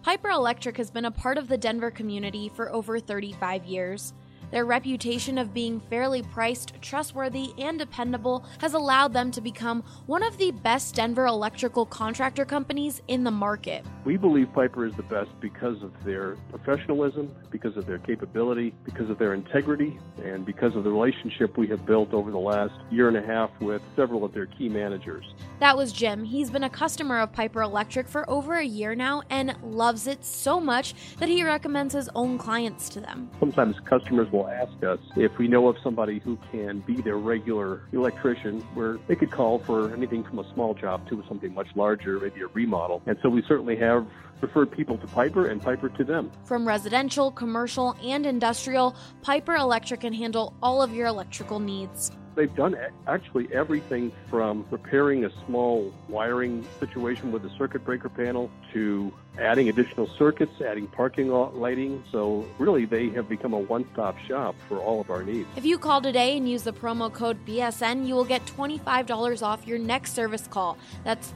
Piper Electric has been a part of the Denver community for over 35 years. Their reputation of being fairly priced, trustworthy, and dependable has allowed them to become one of the best Denver electrical contractor companies in the market. We believe Piper is the best because of their professionalism, because of their capability, because of their integrity, and because of the relationship we have built over the last year and a half with several of their key managers. That was Jim. He's been a customer of Piper Electric for over a year now and loves it so much that he recommends his own clients to them. Sometimes customers will ask us if we know of somebody who can be their regular electrician, where they could call for anything from a small job to something much larger, maybe a remodel. And so we certainly have referred people to Piper and Piper to them. From residential, commercial, and industrial, Piper Electric can handle all of your electrical needs. They've done actually everything from repairing a small wiring situation with a circuit breaker panel to adding additional circuits, adding parking lighting. So really, they have become a one-stop shop for all of our needs. If you call today and use the promo code BSN, you will get $25 off your next service call. That's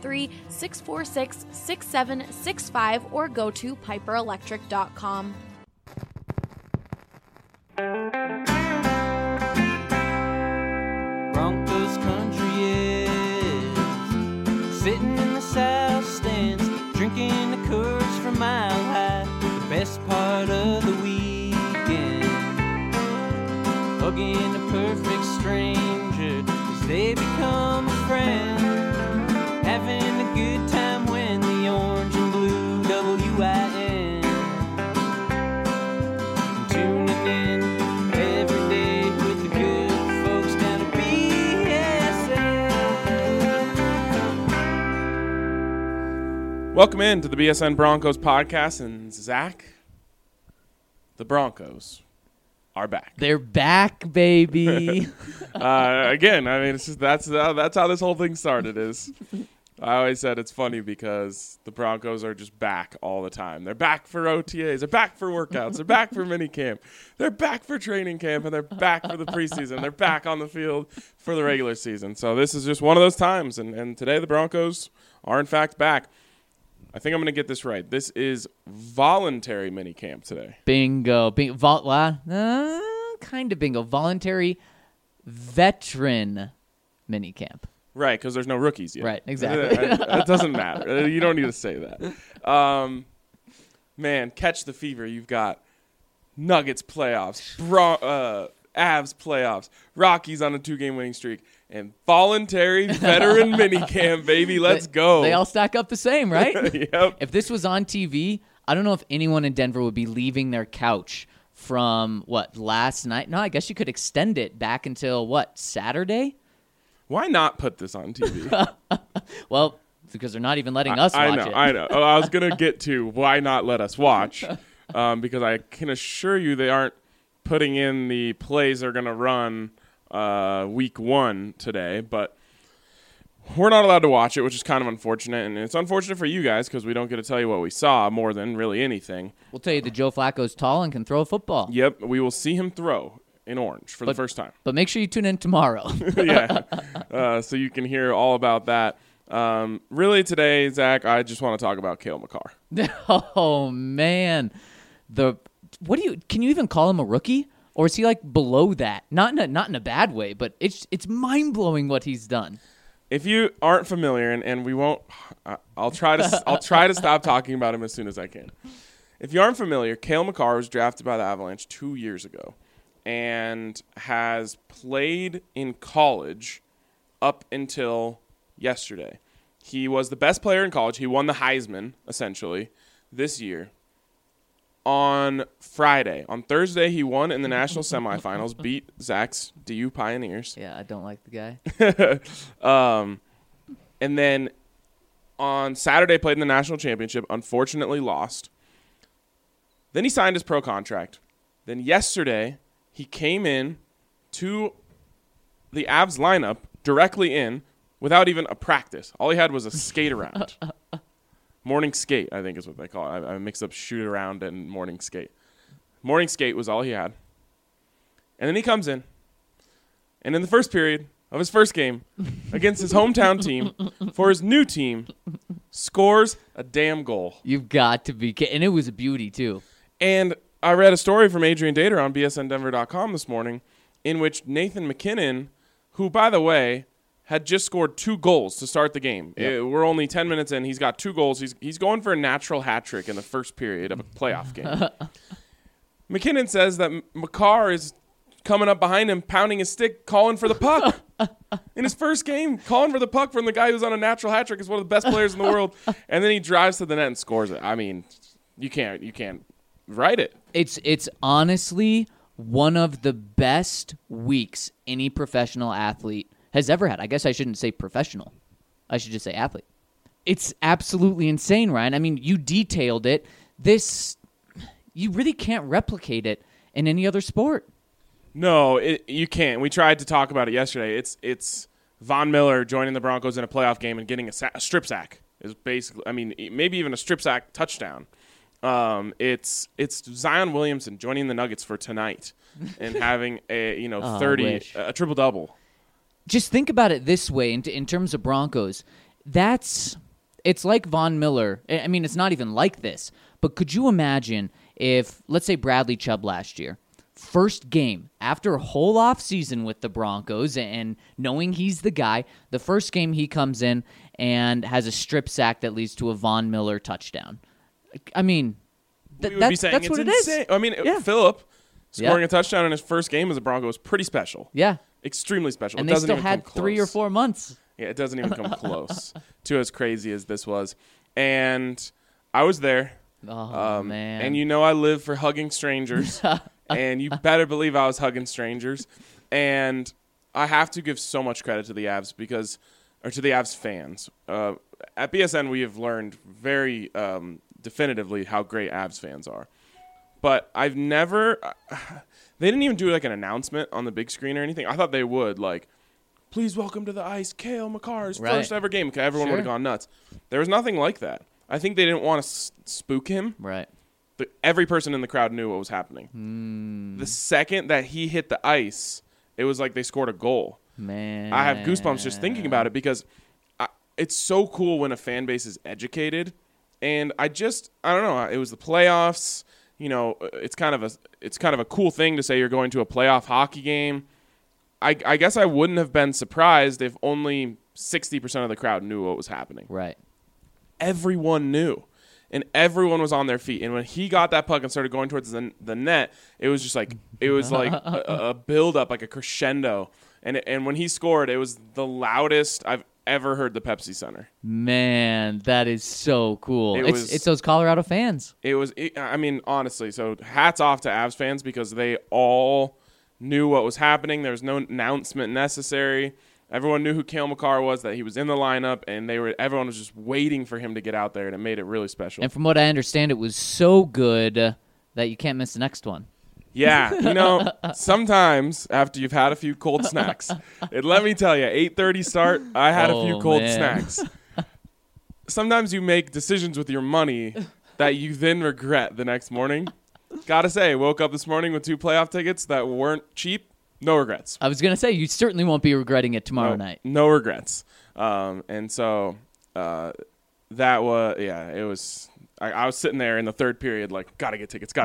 303-646-6765 or go to piperelectric.com. Broncos country is sitting in the south stands, drinking the Coors from Mile High. The best part of the weekend, hugging a perfect stranger as they become a friend, having a good time when the orange and blue WIN, tuning in every day with the good folks down at BSN. Welcome in to the BSN Broncos podcast, and Zach, the Broncos are back. They're back, baby. Again, I mean, it's just that's how this whole thing started. Is I always said it's funny because the Broncos are just back all the time. They're back for OTAs. They're back for workouts. They're back for mini camp. They're back for training camp, and they're back for the preseason. They're back on the field for the regular season. So this is just one of those times, and today the Broncos are in fact back. I think I'm going to get this right. This is voluntary mini camp today. Bingo. Kind of bingo. Voluntary veteran mini camp. Right, because there's no rookies yet. Right, exactly. It doesn't matter. You don't need to say that. Man, catch the fever. You've got Nuggets playoffs, Avs playoffs, Rockies on a 2-game winning streak, and voluntary veteran mini camp, baby. Let's go. They all stack up the same, right? Yep. If this was on TV, I don't know if anyone in Denver would be leaving their couch from, last night? No, I guess you could extend it back until, Saturday? Why not put this on TV? Well, because they're not even letting us watch it. I know. I was going to get to why not let us watch, because I can assure you they aren't putting in the plays they're going to run week 1 today, but we're not allowed to watch it, which is kind of unfortunate, and it's unfortunate for you guys because we don't get to tell you what we saw more than really anything. We'll tell you that Joe Flacco's tall and can throw a football. Yep, we will see him throw in orange for the first time. But make sure you tune in tomorrow. Yeah, so you can hear all about that. Really today, Zach, I just want to talk about Cale Makar. Oh, man. Can you even call him a rookie? Or is he below that? Not in a bad way, but it's mind-blowing what he's done. If you aren't familiar, and we won't, I'll try to stop talking about him as soon as I can. If you aren't familiar, Cale Makar was drafted by the Avalanche 2 years ago and has played in college up until yesterday. He was the best player in college. He won the Heisman, essentially, this year. On Thursday, he won in the national semifinals, beat Zach's DU Pioneers. Yeah, I don't like the guy. And then on Saturday, played in the national championship, unfortunately lost. Then he signed his pro contract. Then yesterday, he came in to the Avs lineup directly in without even a practice. All he had was a skate around. Morning skate, I think is what they call it. I mix up shoot around and morning skate. Morning skate was all he had. And then he comes in. And in the first period of his first game against his hometown team for his new team, scores a damn goal. You've got to be kidding. And it was a beauty, too. And I read a story from Adrian Dater on bsndenver.com this morning in which Nathan McKinnon, who, by the way, had just scored 2 goals to start the game. Yep. We're only 10 minutes in. He's got 2 goals. He's going for a natural hat trick in the first period of a playoff game. McKinnon says that Makar is coming up behind him, pounding his stick, calling for the puck. In his first game, calling for the puck from the guy who's on a natural hat trick, is one of the best players in the world. And then he drives to the net and scores it. I mean, you can't write it. It's honestly one of the best weeks any professional athlete has ever had. I guess I shouldn't say professional. I should just say athlete. It's absolutely insane, Ryan. I mean, you detailed it. You really can't replicate it in any other sport. No, you can't. We tried to talk about it yesterday. It's Von Miller joining the Broncos in a playoff game and getting a strip sack. Is basically, I mean, maybe even a strip sack touchdown. It's Zion Williamson joining the Nuggets for tonight and having a 30 a triple double. Just think about it this way in terms of Broncos. It's like Von Miller. I mean, it's not even like this. But could you imagine if, let's say, Bradley Chubb last year, first game after a whole off season with the Broncos and knowing he's the guy, the first game he comes in and has a strip sack that leads to a Von Miller touchdown. I mean, that's what it is. I mean, Yeah. Phillip scoring a touchdown in his first game as a Bronco was pretty special. Yeah. Extremely special. And it they doesn't still even had come close. 3 or 4 months. Yeah, it doesn't even come close to as crazy as this was. And I was there. Oh, man. And I live for hugging strangers. And you better believe I was hugging strangers. And I have to give so much credit to the Avs to the Avs fans. At BSN, we have learned very definitively how great Avs fans are. But I've never they didn't even do like an announcement on the big screen or anything. I thought they would, like, please welcome to the ice, Cale Makar's first ever game. Okay, everyone would have gone nuts. There was nothing like that. I think they didn't want to spook him. Right. But every person in the crowd knew what was happening. The second that he hit the ice, it was like they scored a goal. Man. I have goosebumps just thinking about it because it's so cool when a fan base is educated. And I don't know. It was the playoffs. It's kind of a cool thing to say you're going to a playoff hockey game. I guess I wouldn't have been surprised if only 60% of the crowd knew what was happening. Right. Everyone knew, and everyone was on their feet. And when he got that puck and started going towards the net, it was just like a build up, like a crescendo. And when he scored, it was the loudest I've ever heard the Pepsi Center. Man, that is so cool. It's It's those Colorado fans. I mean, honestly, so hats off to Avs fans because they all knew what was happening. There was no announcement necessary. Everyone knew who Cale Makar was, that he was in the lineup, and everyone was just waiting for him to get out there, and it made it really special. And from what I understand, it was so good that you can't miss the next one. Yeah, sometimes after you've had a few cold snacks, and let me tell you, 8:30 start, I had a few cold snacks. Sometimes you make decisions with your money that you then regret the next morning. Gotta say, woke up this morning with 2 playoff tickets that weren't cheap. No regrets. I was going to say, you certainly won't be regretting it tomorrow night. No regrets. And so that was, it was, I was sitting there in the third period like, gotta get tickets.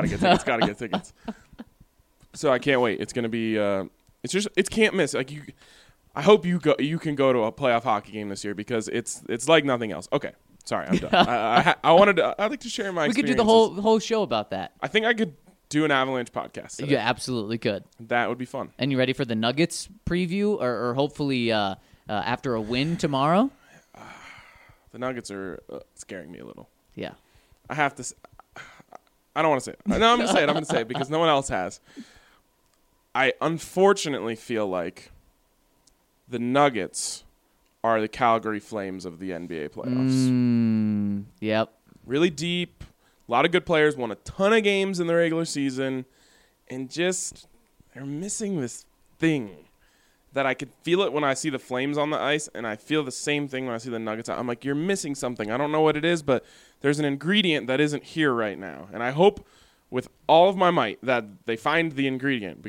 So I can't wait. It's going to be, it's can't miss. Like I hope you can go to a playoff hockey game this year because it's like nothing else. Okay. Sorry, I'm done. I'd like to share my experiences. We could do the whole show about that. I think I could do an Avalanche podcast today. You absolutely could. That would be fun. And you ready for the Nuggets preview or hopefully after a win tomorrow? The Nuggets are scaring me a little. Yeah. I have to I don't want to say it. No, I'm going to say it because no one else has. I unfortunately feel like the Nuggets are the Calgary Flames of the NBA playoffs. Yep. Really deep. A lot of good players. Won a ton of games in the regular season. And just, they're missing this thing that I could feel it when I see the Flames on the ice. And I feel the same thing when I see the Nuggets. I'm like, you're missing something. I don't know what it is, but there's an ingredient that isn't here right now. And I hope with all of my might that they find the ingredient because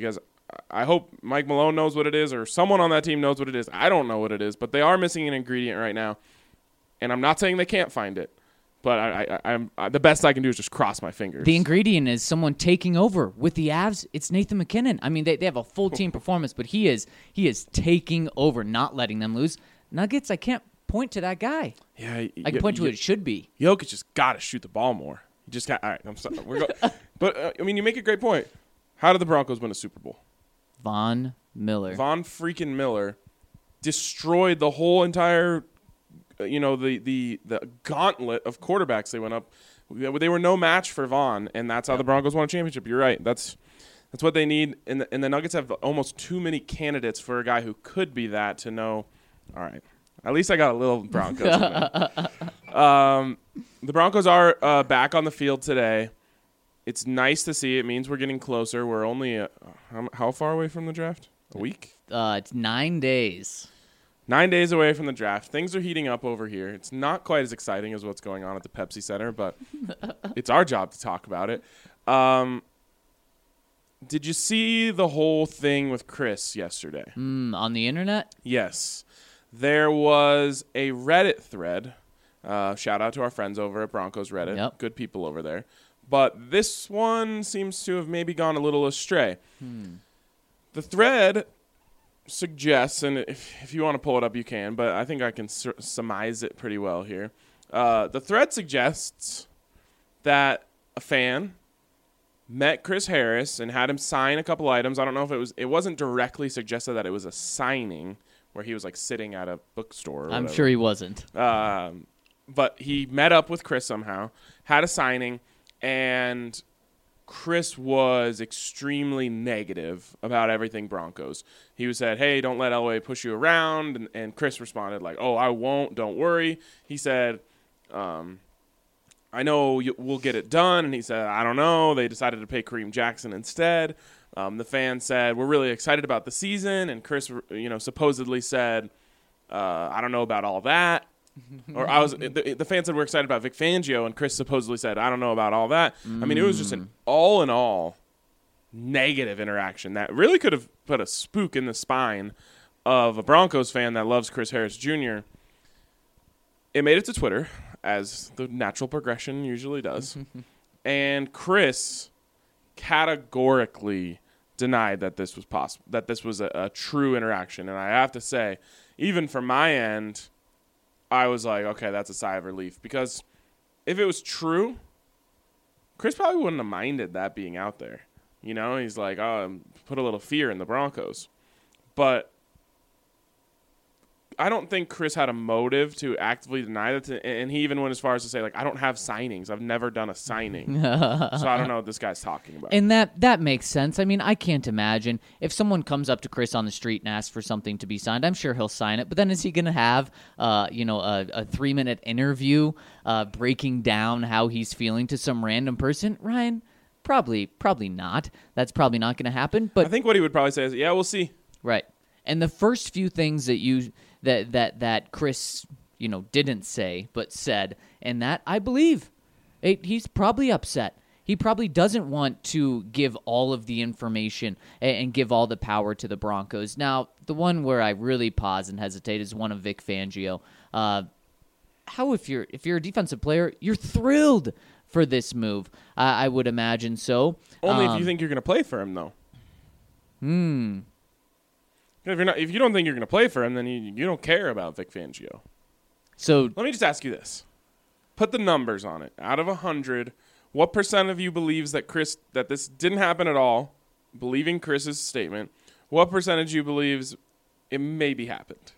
I hope Mike Malone knows what it is, or someone on that team knows what it is. I don't know what it is, but they are missing an ingredient right now. And I'm not saying they can't find it, but I'm the best I can do is just cross my fingers. The ingredient is someone taking over with the Avs. It's Nathan McKinnon. I mean, they have a full team performance, but he is taking over, not letting them lose. Nuggets, I can't point to that guy. Yeah, I can point to what it should be. Jokic just got to shoot the ball more. He just got. All right, I'm sorry. But I mean, you make a great point. How did the Broncos win a Super Bowl? Von Miller. Von freaking Miller destroyed the whole entire, the gauntlet of quarterbacks they went up. They were no match for Von, and that's how the Broncos won a championship. You're right. That's what they need. And the Nuggets have almost too many candidates for a guy who could be that to know. All right. At least I got a little Broncos in there. The Broncos are back on the field today. It's nice to see. It means we're getting closer. We're only how far away from the draft? A week? It's 9 days. 9 days away from the draft. Things are heating up over here. It's not quite as exciting as what's going on at the Pepsi Center, but it's our job to talk about it. Did you see the whole thing with Chris yesterday? On the internet? Yes. There was a Reddit thread. Shout out to our friends over at Broncos Reddit. Yep. Good people over there. But this one seems to have maybe gone a little astray. The thread suggests, and if you want to pull it up, you can, but I think I can surmise it pretty well here. The thread suggests that a fan met Chris Harris and had him sign a couple items. I don't know if it wasn't directly suggested that it was a signing where he was like sitting at a bookstore. Or I'm whatever. sure he wasn't. But he met up with Chris somehow, had a signing, and Chris was extremely negative about everything Broncos. He said, hey, don't let Elway push you around. And Chris responded like, oh, I won't. Don't worry. He said, I know we'll get it done. And he said, I don't know. They decided to pay Kareem Jackson instead. The fan said, we're really excited about the season. And Chris, supposedly said, I don't know about all that. Or the fan said we're excited about Vic Fangio, and Chris supposedly said, I don't know about all that. I mean, it was just an all in all negative interaction that really could have put a spook in the spine of a Broncos fan that loves Chris Harris Jr. It made it to Twitter, as the natural progression usually does. And Chris categorically denied that this was possible, that this was a true interaction. And I have to say, even from my end, I was like, okay, that's a sigh of relief. Because if it was true, Chris probably wouldn't have minded that being out there. He's like, oh, put a little fear in the Broncos. But I don't think Chris had a motive to actively deny that. And he even went as far as to say, like, I don't have signings. I've never done a signing. So I don't know what this guy's talking about. And that makes sense. I mean, I can't imagine if someone comes up to Chris on the street and asks for something to be signed, I'm sure he'll sign it. But then is he going to have, a 3-minute interview breaking down how he's feeling to some random person? Ryan, probably not. That's probably not going to happen. But I think what he would probably say is, yeah, we'll see. Right. And the first few things that Chris, didn't say but said, and that I believe he's probably upset. He probably doesn't want to give all of the information and give all the power to the Broncos. Now, the one where I really pause and hesitate is one of Vic Fangio. How if you're a defensive player, you're thrilled for this move? I would imagine so. Only if you think you're going to play for him, though. If you don't think you're going to play for him, then you don't care about Vic Fangio. So let me just ask you this: put the numbers on it. Out of 100, what percent of you believes that this didn't happen at all? Believing Chris's statement, what percentage you believes it maybe happened?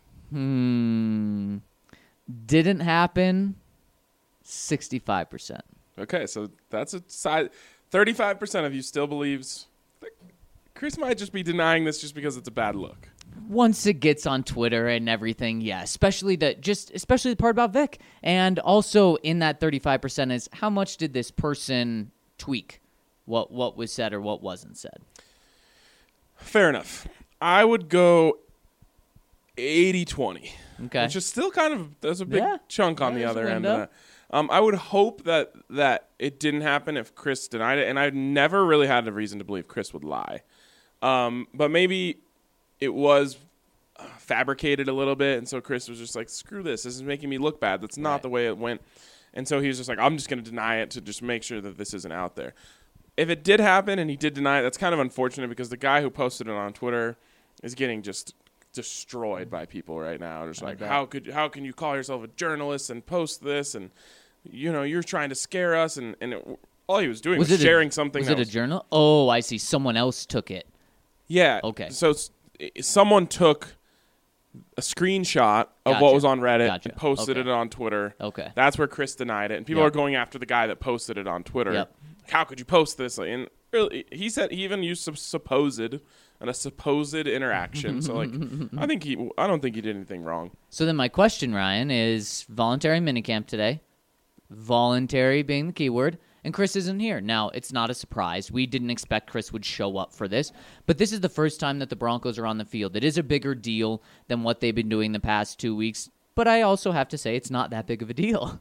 Didn't happen. 65%. Okay, so that's a side. 35% of you still believes that Chris might just be denying this just because it's a bad look. Once it gets on Twitter and everything, yeah, especially the part about Vic. And also in that 35% is how much did this person tweak what was said or what wasn't said? Fair enough. I would go 80-20. Okay. Which is still there's a big chunk on the other end of that. I would hope that it didn't happen if Chris denied it, and I've never really had a reason to believe Chris would lie. But maybe it was fabricated a little bit, and so Chris was just like, screw this. This is making me look bad. That's not the way it went. And so he was just like, I'm just going to deny it to just make sure that this isn't out there. If it did happen and he did deny it, that's kind of unfortunate because the guy who posted it on Twitter is getting just destroyed by people right now. Just like, how can you call yourself a journalist and post this? And, you're trying to scare us. And all he was doing was sharing something. Was it a journal? Oh, I see. Someone else took it. Yeah. Okay. So someone took a screenshot of what was on Reddit and posted it on Twitter. Okay. That's where Chris denied it. And people are going after the guy that posted it on Twitter. Yep. How could you post this? And really, he said he even used a supposed interaction. So I don't think he did anything wrong. So then my question, Ryan, is voluntary minicamp today. Voluntary being the keyword. And Chris isn't here. Now, it's not a surprise. We didn't expect Chris would show up for this. But this is the first time that the Broncos are on the field. It is a bigger deal than what they've been doing the past 2 weeks. But I also have to say it's not that big of a deal.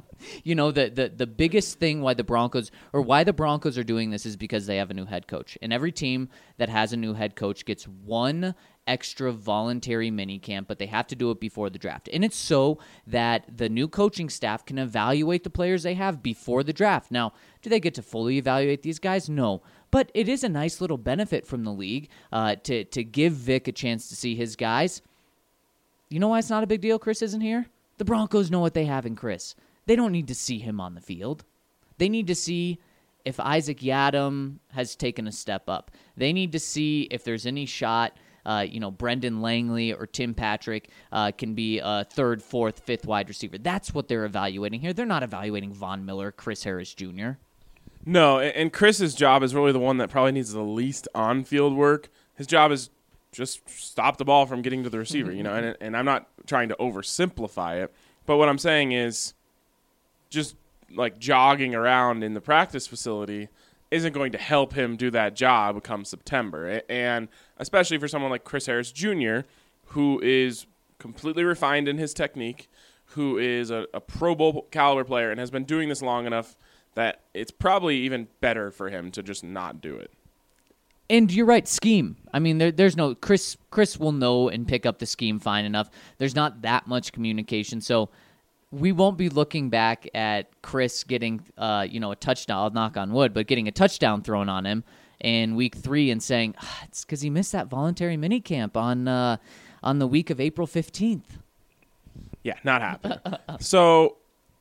The biggest thing why the Broncos are doing this is because they have a new head coach. And every team that has a new head coach gets one extra voluntary minicamp, but they have to do it before the draft. And it's so that the new coaching staff can evaluate the players they have before the draft. Now, do they get to fully evaluate these guys? No. But it is a nice little benefit from the league to give Vic a chance to see his guys. You know why it's not a big deal Chris isn't here? The Broncos know what they have in Chris. They don't need to see him on the field. They need to see if Isaac Yiadom has taken a step up. They need to see if there's any shot, Brendan Langley or Tim Patrick can be a third, fourth, fifth wide receiver. That's what they're evaluating here. They're not evaluating Von Miller, Chris Harris Jr. No, and Chris's job is really the one that probably needs the least on-field work. His job is just stop the ball from getting to the receiver, and I'm not trying to oversimplify it, but what I'm saying is just like jogging around in the practice facility isn't going to help him do that job come September. And especially for someone like Chris Harris Jr., who is completely refined in his technique, who is a Pro Bowl caliber player and has been doing this long enough that it's probably even better for him to just not do it. And you're right, scheme. I mean, there's no Chris will know and pick up the scheme fine enough. There's not that much communication, so we won't be looking back at Chris getting a touchdown. I'll knock on wood, but getting a touchdown thrown on him in week 3 and saying it's because he missed that voluntary minicamp on the week of April 15th. Yeah, not happening. So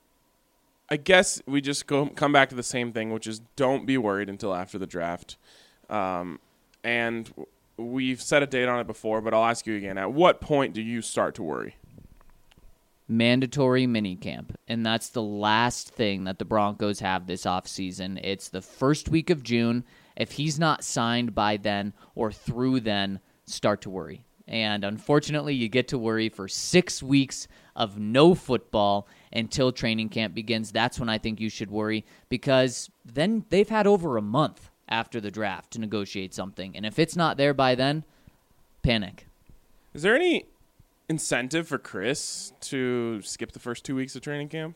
I guess we just come back to the same thing, which is don't be worried until after the draft. And we've set a date on it before, but I'll ask you again. At what point do you start to worry? Mandatory minicamp, and that's the last thing that the Broncos have this offseason. It's the first week of June. If he's not signed by then or through then, start to worry. And unfortunately, you get to worry for 6 weeks of no football until training camp begins. That's when I think you should worry, because then they've had over a month after the draft to negotiate something. And if it's not there by then, panic. Is there any incentive for Chris to skip the first 2 weeks of training camp?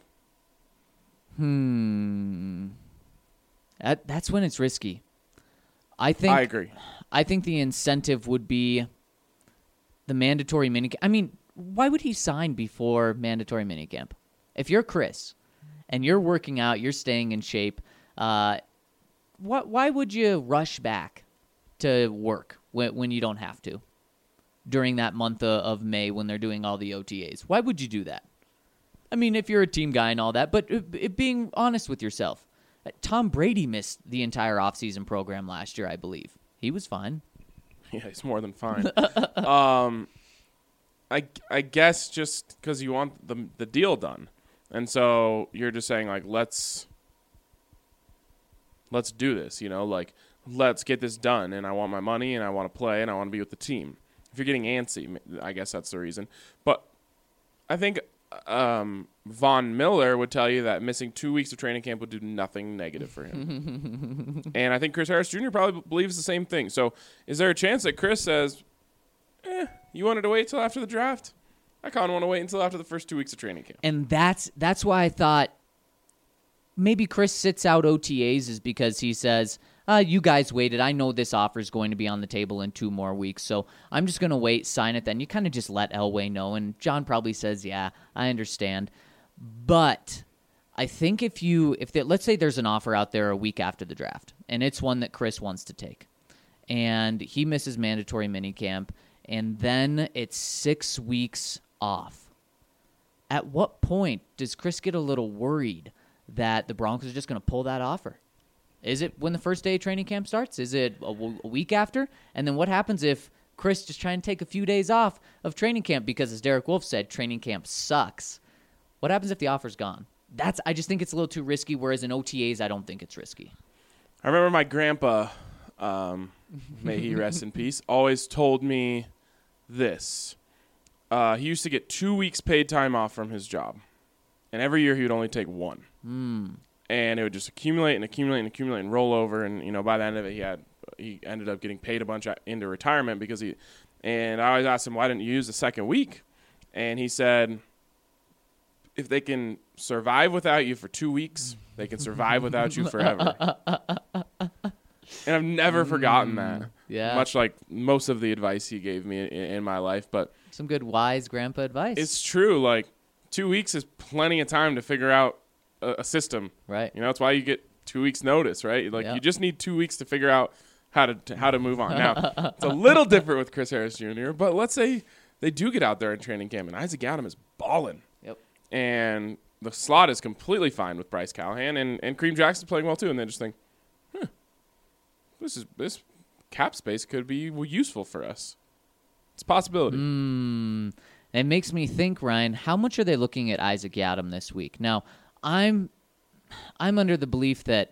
That's when it's risky. I agree. I think the incentive would be the mandatory minicamp. I mean, why would he sign before mandatory minicamp? If you're Chris and you're working out, you're staying in shape, why would you rush back to work when you don't have to during that month of May when they're doing all the OTAs? Why would you do that? I mean, if you're a team guy and all that, but being honest with yourself, Tom Brady missed the entire offseason program last year, I believe. He was fine. Yeah, he's more than fine. I guess just because you want the deal done. And so you're just saying, like, let's do this, let's get this done. And I want my money, and I want to play, and I want to be with the team. If you're getting antsy, I guess that's the reason. But I think Von Miller would tell you that missing 2 weeks of training camp would do nothing negative for him. And I think Chris Harris Jr. probably believes the same thing. So is there a chance that Chris says, you wanted to wait till after the draft? I kind of want to wait until after the first 2 weeks of training camp. And that's why I thought maybe Chris sits out OTAs is because he says, you guys waited. I know this offer is going to be on the table in 2 more weeks, so I'm just going to wait, sign it then. You kind of just let Elway know, and John probably says, yeah, I understand. But I think let's say there's an offer out there a week after the draft, and it's one that Chris wants to take, and he misses mandatory minicamp, and then it's 6 weeks off. At what point does Chris get a little worried that the Broncos are just going to pull that offer? Is it when the first day of training camp starts? Is it a week after? And then what happens if Chris just trying to take a few days off of training camp because, as Derek Wolfe said, training camp sucks? What happens if the offer's gone? I just think it's a little too risky, whereas in OTAs, I don't think it's risky. I remember my grandpa, may he rest in peace, always told me this. He used to get 2 weeks paid time off from his job, and every year he would only take 1. And it would just accumulate and roll over, and by the end of it, he ended up getting paid a bunch into retirement and I always asked him, why didn't you use the second week? And he said, if they can survive without you for 2 weeks, they can survive without you forever. And I've never forgotten that. Yeah. Much like most of the advice he gave me in my life. But some good wise grandpa advice. It's true. 2 weeks is plenty of time to figure out a system. Right. That's why you get 2 weeks notice, right? You just need 2 weeks to figure out how to move on. Now, it's a little different with Chris Harris Jr., but let's say they do get out there in training camp and Isaac Adam is balling. Yep. And the slot is completely fine with Bryce Callahan, and Kareem Jackson's playing well too, and they just think, this cap space could be useful for us. It's a possibility. It makes me think, Ryan, how much are they looking at Isaac Yiadom this week? Now, I'm under the belief that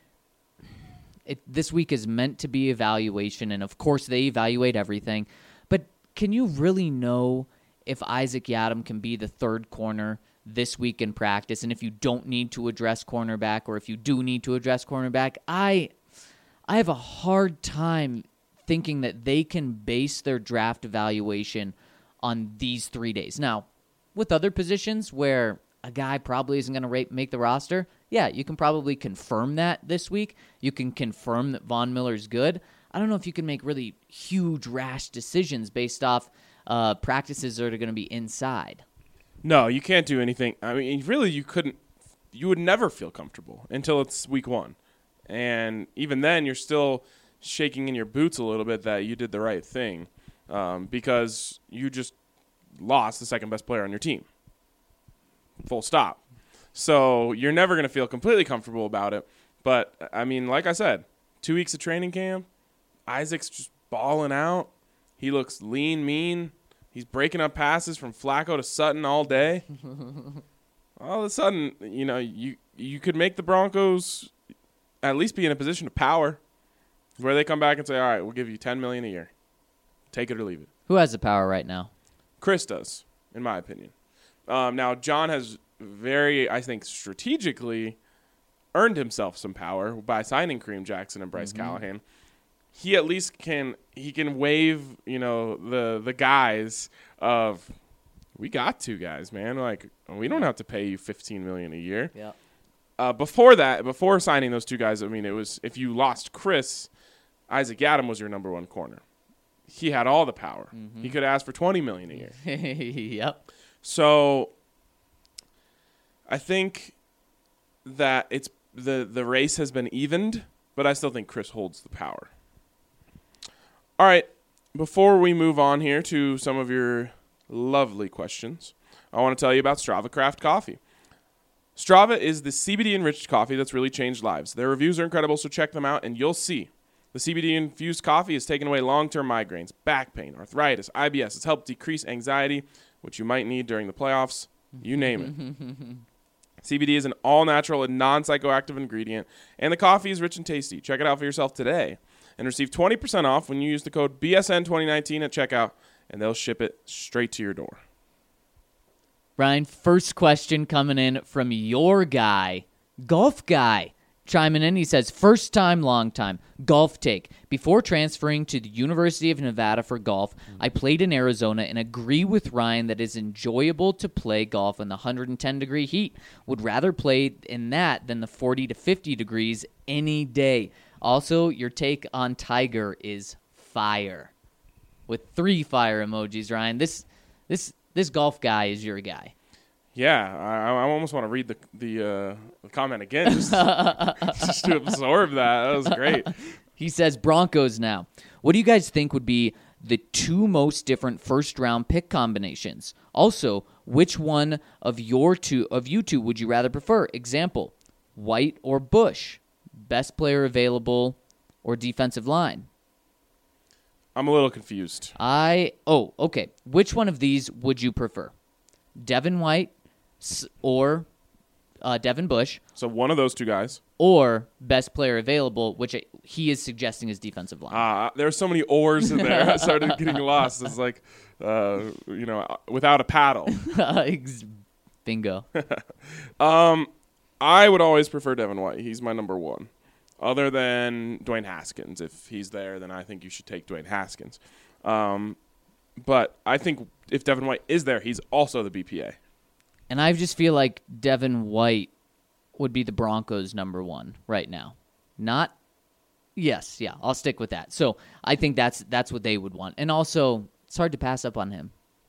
this week is meant to be evaluation, and of course they evaluate everything. But can you really know if Isaac Yiadom can be the third corner this week in practice, and if you don't need to address cornerback, or if you do need to address cornerback? I have a hard time thinking that they can base their draft evaluation on these 3 days. Now, with other positions where a guy probably isn't going to make the roster, yeah, you can probably confirm that this week. You can confirm that Von Miller's good. I don't know if you can make really huge, rash decisions based off practices that are going to be inside. No, you can't do anything. I mean, really, you couldn't. You would never feel comfortable until it's week 1. And even then, you're still shaking in your boots a little bit that you did the right thing because you just lost the second best player on your team. Full stop. So you're never going to feel completely comfortable about it. But, I mean, like I said, 2 weeks of training camp, Isaac's just balling out. He looks lean, mean. He's breaking up passes from Flacco to Sutton all day. All of a sudden, you could make the Broncos at least be in a position of power where they come back and say, all right, we'll give you $10 million a year. Take it or leave it. Who has the power right now? Chris does, in my opinion. Now, John has very, I think, strategically earned himself some power by signing Kareem Jackson and Bryce Callahan. He at least can wave, the guys of, we got 2 guys, man. We don't have to pay you $15 million a year. Yeah. Before signing those 2 guys, I mean, it was, if you lost Chris, Isaac Yiadom was your number 1 corner. He had all the power. He could ask for $20 million a year. Yep. So I think that it's the race has been evened, but I still think Chris holds the power. All right, before we move on here to some of your lovely questions, I want to tell you about Strava Craft Coffee. Strava is the CBD-enriched coffee that's really changed lives. Their reviews are incredible, so check them out, and you'll see. The CBD-infused coffee has taken away long-term migraines, back pain, arthritis, IBS. It's helped decrease anxiety, which you might need during the playoffs. You name it. CBD is an all-natural and non-psychoactive ingredient, and the coffee is rich and tasty. Check it out for yourself today and receive 20% off when you use the code BSN2019 at checkout, and they'll ship it straight to your door. Ryan, first question coming in from your guy, Golf Guy. Chiming in, he says, first time, long time, golf take. Before transferring to the University of Nevada for golf, I played in Arizona and agree with Ryan that it's enjoyable to play golf in the 110-degree heat. Would rather play in that than the 40 to 50 degrees any day. Also, your take on Tiger is fire, with 3 fire emojis. Ryan, this golf guy is your guy. Yeah, I almost want to read the comment again just to absorb that. That was great. He says Broncos now. What do you guys think would be the 2 most different first-round pick combinations? Also, which one of you two would you rather prefer? Example, White or Bush? Best player available or defensive line? I'm a little confused. Okay. Which one of these would you prefer? Devin White or Devin Bush? So one of those 2 guys. Or best player available, which he is suggesting is defensive line. There are so many oars in there. I started getting lost. It's like, without a paddle. Bingo. I would always prefer Devin White. He's my number 1. Other than Dwayne Haskins. If he's there, then I think you should take Dwayne Haskins. But I think if Devin White is there, he's also the BPA. And I just feel like Devin White would be the Broncos' number 1 right now. I'll stick with that. So I think that's what they would want. And also, it's hard to pass up on him.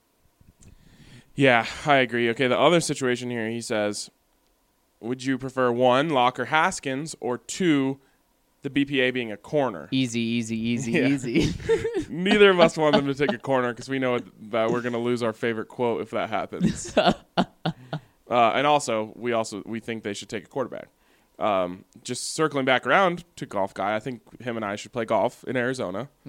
Yeah, I agree. Okay, the other situation here, he says, would you prefer 1, Locker Haskins, or 2, the BPA being a corner? Easy. Neither of us want them to take a corner because we know that we're going to lose our favorite quote if that happens. And also, we think they should take a quarterback. Just circling back around to golf guy, I think him and I should play golf in Arizona. He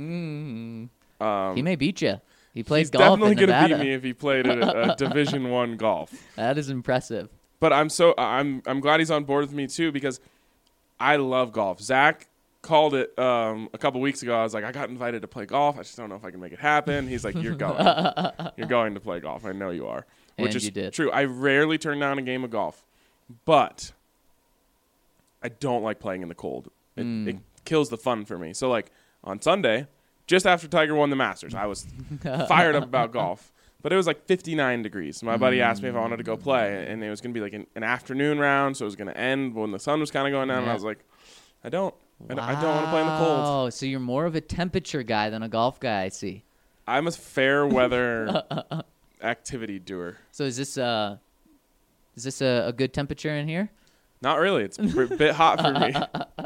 may beat you. He plays golf in Nevada. He's definitely going to beat me if he played a Division I golf. That is impressive. But I'm glad he's on board with me too because I love golf. Zach called it a couple weeks ago. I was like, I got invited to play golf. I just don't know if I can make it happen. He's like, you're going. You're going to play golf. I know you are. Which is true. I rarely turn down a game of golf, but I don't like playing in the cold. It kills the fun for me. So, like, on Sunday, just after Tiger won the Masters, I was fired up about golf. But it was like 59 degrees. My buddy asked me if I wanted to go play, and it was going to be like an afternoon round, so it was going to end when the sun was kind of going down, and I was like, I don't want to play in the cold. Oh, so you're more of a temperature guy than a golf guy, I see. I'm a fair weather activity doer. So is this a good temperature in here? Not really. It's a bit hot for me.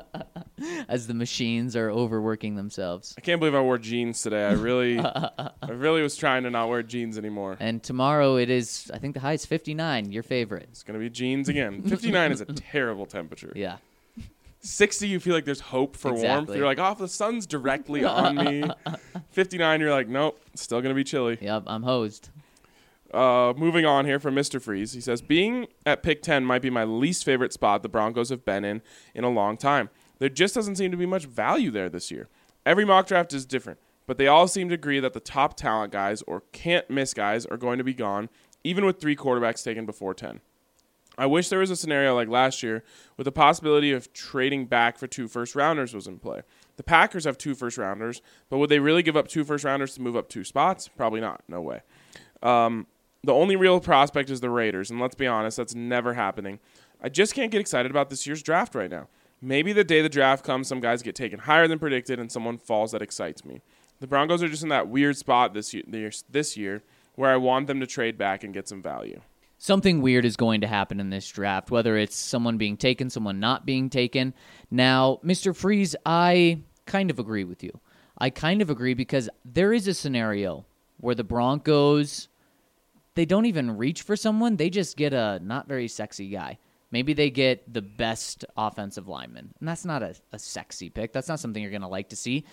As the machines are overworking themselves. I can't believe I wore jeans today. I really was trying to not wear jeans anymore. And tomorrow it is, I think the high is 59, your favorite. It's going to be jeans again. 59 is a terrible temperature. Yeah. 60, you feel like there's hope for warmth. You're like, oh, the sun's directly on me. 59, you're like, nope, it's still going to be chilly. Yep, I'm hosed. Moving on here from Mr. Freeze. He says, being at pick 10 might be my least favorite spot the Broncos have been in a long time. There just doesn't seem to be much value there this year. Every mock draft is different, but they all seem to agree that the top talent guys or can't-miss guys are going to be gone, even with 3 quarterbacks taken before 10. I wish there was a scenario like last year with the possibility of trading back for 2 first-rounders was in play. The Packers have 2 first-rounders, but would they really give up 2 first-rounders to move up 2 spots? Probably not. No way. The only real prospect is the Raiders, and let's be honest, that's never happening. I just can't get excited about this year's draft right now. Maybe the day the draft comes, some guys get taken higher than predicted, and someone falls that excites me. The Broncos are just in that weird spot this year where I want them to trade back and get some value. Something weird is going to happen in this draft, whether it's someone being taken, someone not being taken. Now, Mr. Freeze, I kind of agree with you. I kind of agree because there is a scenario where the Broncos, they don't even reach for someone. They just get a not very sexy guy. Maybe they get the best offensive lineman. And that's not a sexy pick. That's not something you're going to like to see.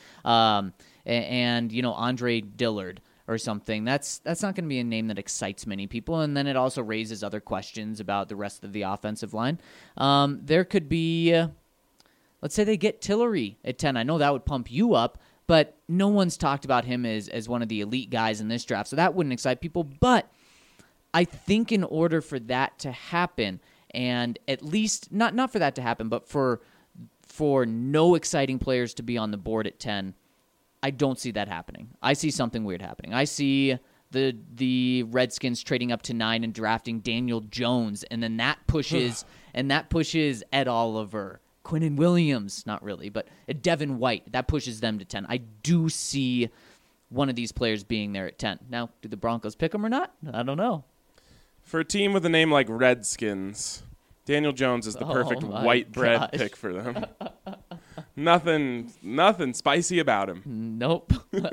And Andre Dillard or something. That's not going to be a name that excites many people. And then it also raises other questions about the rest of the offensive line. There could be, let's say they get Tillery at 10. I know that would pump you up, but no one's talked about him as one of the elite guys in this draft. So that wouldn't excite people. But I think in order for that to happen, and at least not for that to happen, but for no exciting players to be on the board at 10, I don't see that happening. I see something weird happening. I see the Redskins trading up to 9 and drafting Daniel Jones, and then that pushes Ed Oliver, Quinnen Williams, not really, but Devin White, that pushes them to 10. I do see one of these players being there at 10. Now, do the Broncos pick him or not? I don't know. For a team with a name like Redskins, Daniel Jones is the perfect white bread pick for them. Nothing spicy about him. Nope.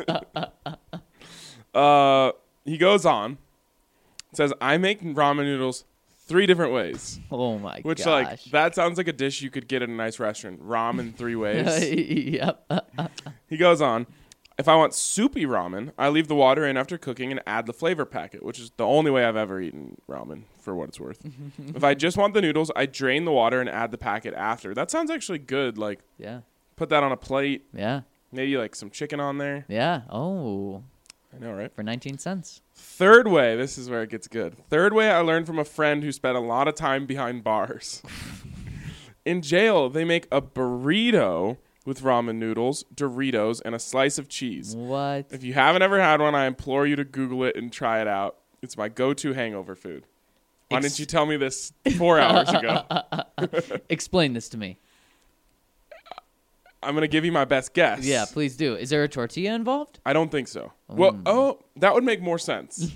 He goes on, says, I make ramen noodles 3 different ways. Oh, my Which, gosh. like, that sounds like a dish you could get at a nice restaurant. Ramen 3 ways. Yep. He goes on, if I want soupy ramen, I leave the water in after cooking and add the flavor packet, which is the only way I've ever eaten ramen, for what it's worth. If I just want the noodles, I drain the water and add the packet after. That sounds actually good. Like, Yeah. put that on a plate. Yeah. Maybe, like, some chicken on there. Yeah. Oh, I know, right? for 19 cents. Third way, this is where it gets good. Third way, I learned from a friend who spent a lot of time behind bars. In jail, they make a burrito with ramen noodles, Doritos, and a slice of cheese. What? If you haven't ever had one, I implore you to Google it and try it out. It's my go-to hangover food. Why didn't you tell me this 4 hours ago? Explain this to me. I'm going to give you my best guess. Yeah, please do. Is there a tortilla involved? I don't think so. Well, that would make more sense.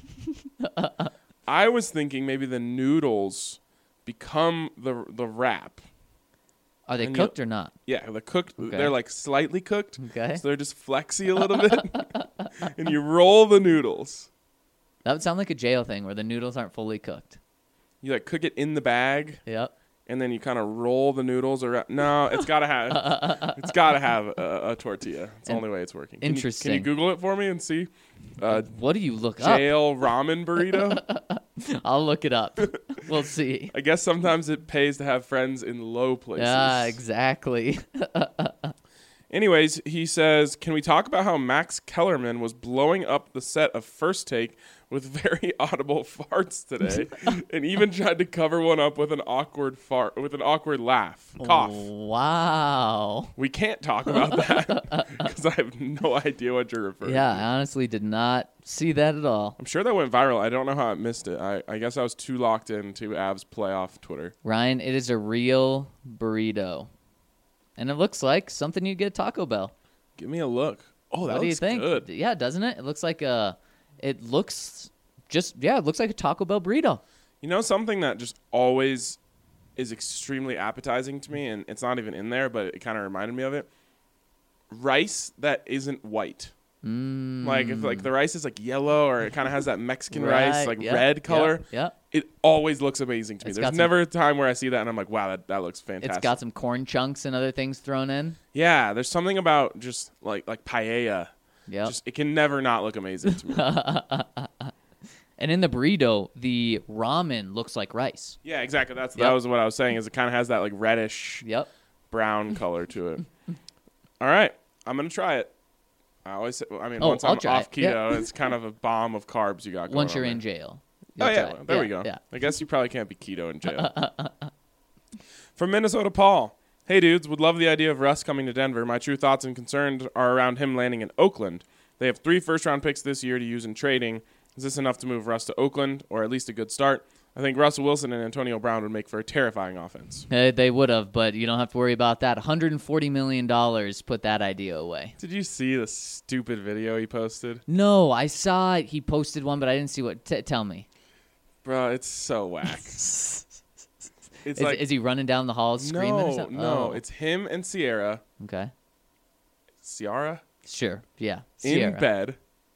I was thinking maybe the noodles become the wrap. Are they And cooked or not? Yeah, they're cooked. Okay. They're like slightly cooked. Okay. So they're just flexy a little bit. And you roll the noodles. That would sound like a jail thing where the noodles aren't fully cooked. You like cook it in the bag. Yep. And then you kind of roll the noodles around. No, it's got to have a tortilla. It's the only way it's working. Interesting. Can you Google it for me and see? What do you look up? Jail ramen burrito. I'll look it up. We'll see. I guess sometimes it pays to have friends in low places. Yeah, exactly. Anyways, he says, can we talk about how Max Kellerman was blowing up the set of First Take with very audible farts today and even tried to cover one up with an awkward laugh. Cough. Wow. We can't talk about that because I have no idea what you're referring Yeah, to. I honestly did not see that at all. I'm sure that went viral. I don't know how I missed it. I guess I was too locked into Avs playoff Twitter. Ryan, it is a real burrito. And it looks like something you'd get at Taco Bell. Give me a look. Oh, that What do you looks think? good. Yeah, doesn't it? It looks like it looks like a Taco Bell burrito. You know something that just always is extremely appetizing to me, and it's not even in there, but it kind of reminded me of it? Rice that isn't white. Like if like the rice is like yellow or it kind of has that Mexican rice like yep, red color. Yep. It always looks amazing to me. It's There's got some- never a time where I see that and I'm like, wow, that looks fantastic. It's got some corn chunks and other things thrown in. Yeah, there's something about just like paella. Yep. Just it can never not look amazing to me. And in the burrito, the ramen looks like rice. Yeah, exactly. That Yep. was what I was saying. Is it kind of has that like reddish Yep. brown color to it. All right, I'm gonna try it. Once I'll I'm try off it. Yep. keto, it's kind of a bomb of carbs you got going Once you're on in there. jail. Oh You'll yeah, try it. well, there we go. Yeah. I guess you probably can't be keto in jail. From Minnesota, Paul. Hey dudes, would love the idea of Russ coming to Denver. My true thoughts and concerns are around him landing in Oakland. They have 3 first-round picks this year to use in trading. Is this enough to move Russ to Oakland, or at least a good start? I think Russell Wilson and Antonio Brown would make for a terrifying offense. They would have, but you don't have to worry about that. $140 million put that idea away. Did you see the stupid video he posted? No, I saw it. He posted one, but I didn't see what. Tell me. Bro, it's so whack. It's Is he running down the halls screaming or something? No, Oh. it's him and Ciara. Okay. Ciara? Sure. Yeah. In Sierra. bed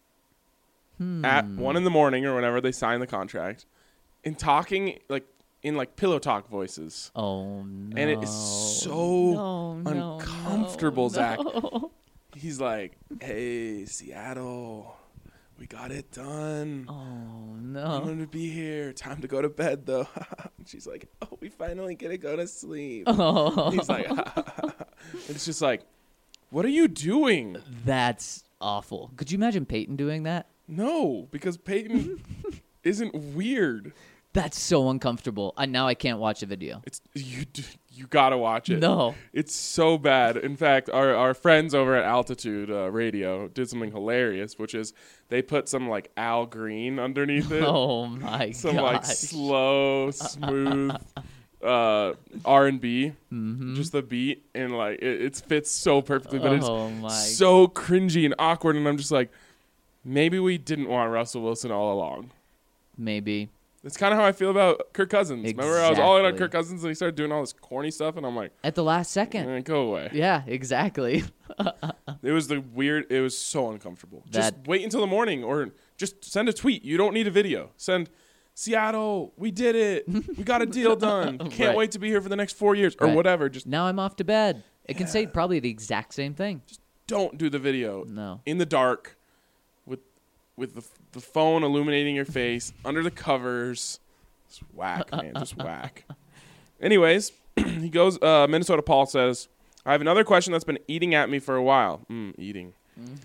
at 1 a.m. or whenever they sign the contract and talking like in like pillow talk voices. Oh, no. And it is so No, uncomfortable, no. Zach. He's like, hey, Seattle, we got it done. Oh, I'm no. going to be here. Time to go to bed, though. And she's like, oh, we finally get to go to sleep. Oh. He's like, it's just like, what are you doing? That's awful. Could you imagine Peyton doing that? No, because Peyton isn't weird. That's so uncomfortable. Now I can't watch a video. It's you gotta watch it. No. It's so bad. In fact, our friends over at Altitude Radio did something hilarious, which is they put some like Al Green underneath it. Oh, my Some gosh. like slow, smooth R&B, just the beat, and like it fits so perfectly, but Oh, my. it's so cringy and awkward, and I'm just like, maybe we didn't want Russell Wilson all along. Maybe. It's kind of how I feel about Kirk Cousins. Remember, I was all in on Exactly. Kirk Cousins, and he started doing all this corny stuff, and I'm like, At the last second. go away. Yeah, exactly. It was it was so uncomfortable. Just That- wait until the morning, or just send a tweet. You don't need a video. Send, Seattle, we did it. We got a deal done. Can't Right. wait to be here for the next 4 years, or Right. whatever. Just Now I'm off to bed. It can say probably the exact same thing. don't do the video No. in the dark with the phone illuminating your face under the covers. It's whack, man. Just whack. Anyways, he goes, Minnesota Paul says, I have another question that's been eating at me for a while. Eating.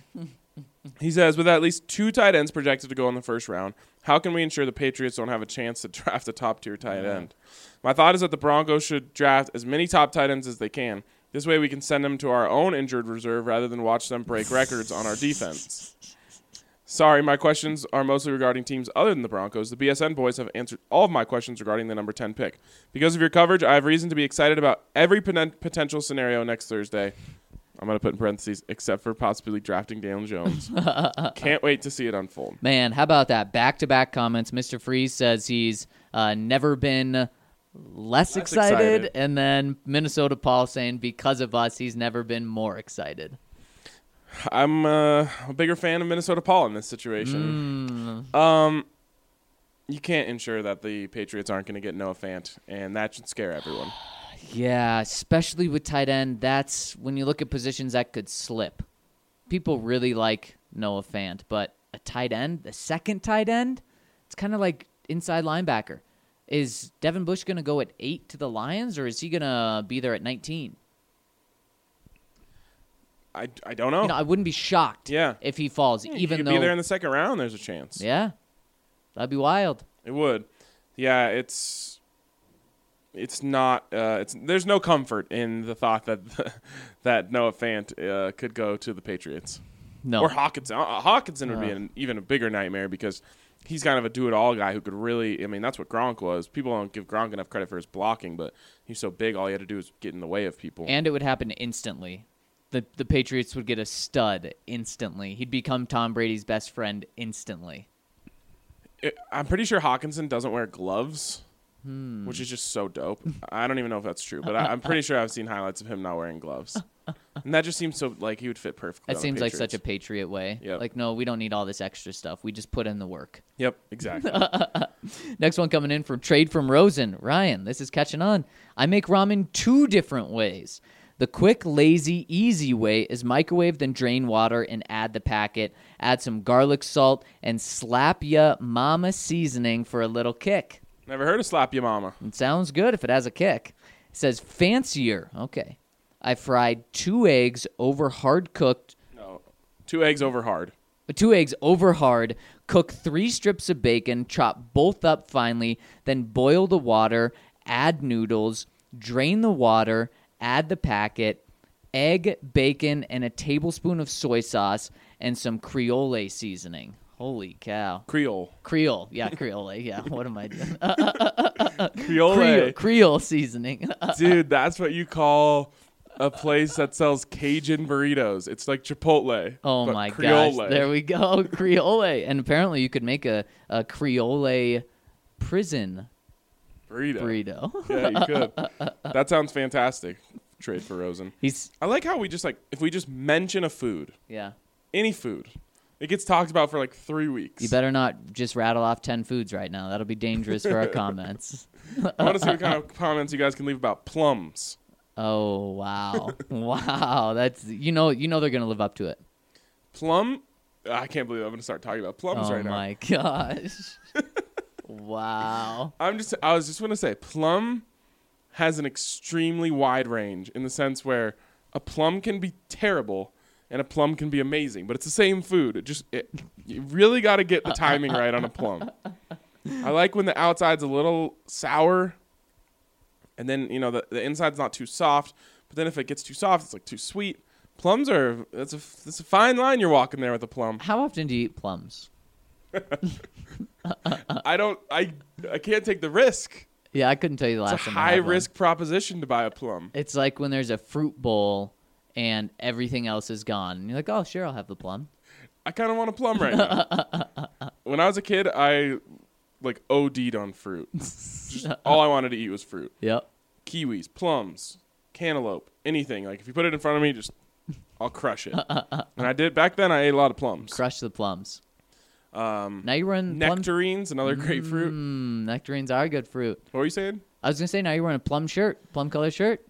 He says, with at least 2 tight ends projected to go in the first round, how can we ensure the Patriots don't have a chance to draft a top-tier tight end? My thought is that the Broncos should draft as many top tight ends as they can. This way we can send them to our own injured reserve rather than watch them break records on our defense. Sorry, my questions are mostly regarding teams other than the Broncos. The BSN boys have answered all of my questions regarding the number 10 pick. Because of your coverage, I have reason to be excited about every potential scenario next Thursday. I'm going to put in parentheses, except for possibly drafting Daniel Jones. Can't wait to see it unfold. Man, how about that? Back-to-back comments. Mr. Freeze says he's never been less excited. And then Minnesota Paul saying because of us, he's never been more excited. I'm a bigger fan of Minnesota Paul in this situation. You can't ensure that the Patriots aren't going to get Noah Fant, and that should scare everyone. Yeah, especially with tight end. That's when you look at positions that could slip. People really like Noah Fant, but a tight end, the second tight end, it's kind of like inside linebacker. Is Devin Bush going to go at 8 to the Lions, or is he going to be there at 19? I don't know. I wouldn't be shocked Yeah. if he falls, He even could though be there in the second round, there's a chance. yeah, that'd be wild. It would. Yeah, it's not. There's no comfort in the thought that that Noah Fant could go to the Patriots No, or Hawkinson. Hawkinson would be even a bigger nightmare because he's kind of a do-it-all guy who could really. I mean, that's what Gronk was. People don't give Gronk enough credit for his blocking, but he's so big. All he had to do was get in the way of people. and it would happen instantly. The Patriots would get a stud instantly. He'd become Tom Brady's best friend instantly. I'm pretty sure Hawkinson doesn't wear gloves, which is just so dope. I don't even know if that's true, but I'm pretty sure I've seen highlights of him not wearing gloves. And that just seems so like he would fit perfectly. That seems like such a Patriot way. Yep. Like, no, we don't need all this extra stuff. We just put in the work. Yep, exactly. Next one coming in from Trade from Rosen. Ryan, this is catching on. I make ramen 2 different ways. The quick, lazy, easy way is microwave, then drain water and add the packet. Add some garlic salt and slap ya mama seasoning for a little kick. Never heard of Slap Ya Mama. It sounds good if it has a kick. It says fancier. Okay. I fried 2 eggs over hard cooked. No, 2 eggs over hard. 2 eggs over hard. Cook 3 strips of bacon. Chop both up finely. Then boil the water. Add noodles. Drain the water. Add the packet. Egg, bacon, and a tablespoon of soy sauce and some Creole seasoning. Holy cow. Creole. Yeah, Creole. Yeah, what am I doing? Creole. Creole seasoning. Dude, that's what you call a place that sells Cajun burritos. It's like Chipotle. Oh but my Creole. gosh. There we go. Creole. And apparently you could make a Creole prison burrito. Yeah, you could. That sounds fantastic. Trade for Rosen. He's I like how we just if we just mention a food, yeah. any food, it gets talked about for like 3 weeks. You better not just rattle off 10 foods right now. That'll be dangerous for our comments. I want to see what kind of comments you guys can leave about plums. Oh wow. Wow. That's you know they're gonna live up to it. Plum? I can't believe I'm going to start talking about plums Oh right now. my gosh. Wow. I was just going to say, plum has an extremely wide range in the sense where a plum can be terrible and a plum can be amazing, but it's the same food. You really got to get the timing right on a plum. I like when the outside's a little sour, and then the inside's not too soft. But then if it gets too soft, it's like too sweet. Plums it's a fine line you're walking there with a plum. How often do you eat plums? I can't take the risk. Yeah, I couldn't tell you the It's last a time I had one. high-risk proposition to buy a plum. It's like when there's a fruit bowl and everything else is gone. And you're like, oh, sure, I'll have the plum. I kind of want a plum right now. When I was a kid, I like OD'd on fruit. Just all I wanted to eat was fruit. Yep. Kiwis, plums, cantaloupe, anything. Like if you put it in front of me, just I'll crush it. And I did back then. I ate a lot of plums. Crush the plums. Now you're running plum. Nectarines, another great fruit. Nectarines are good fruit. What were you saying? I was going to say, now you're wearing a plum color shirt.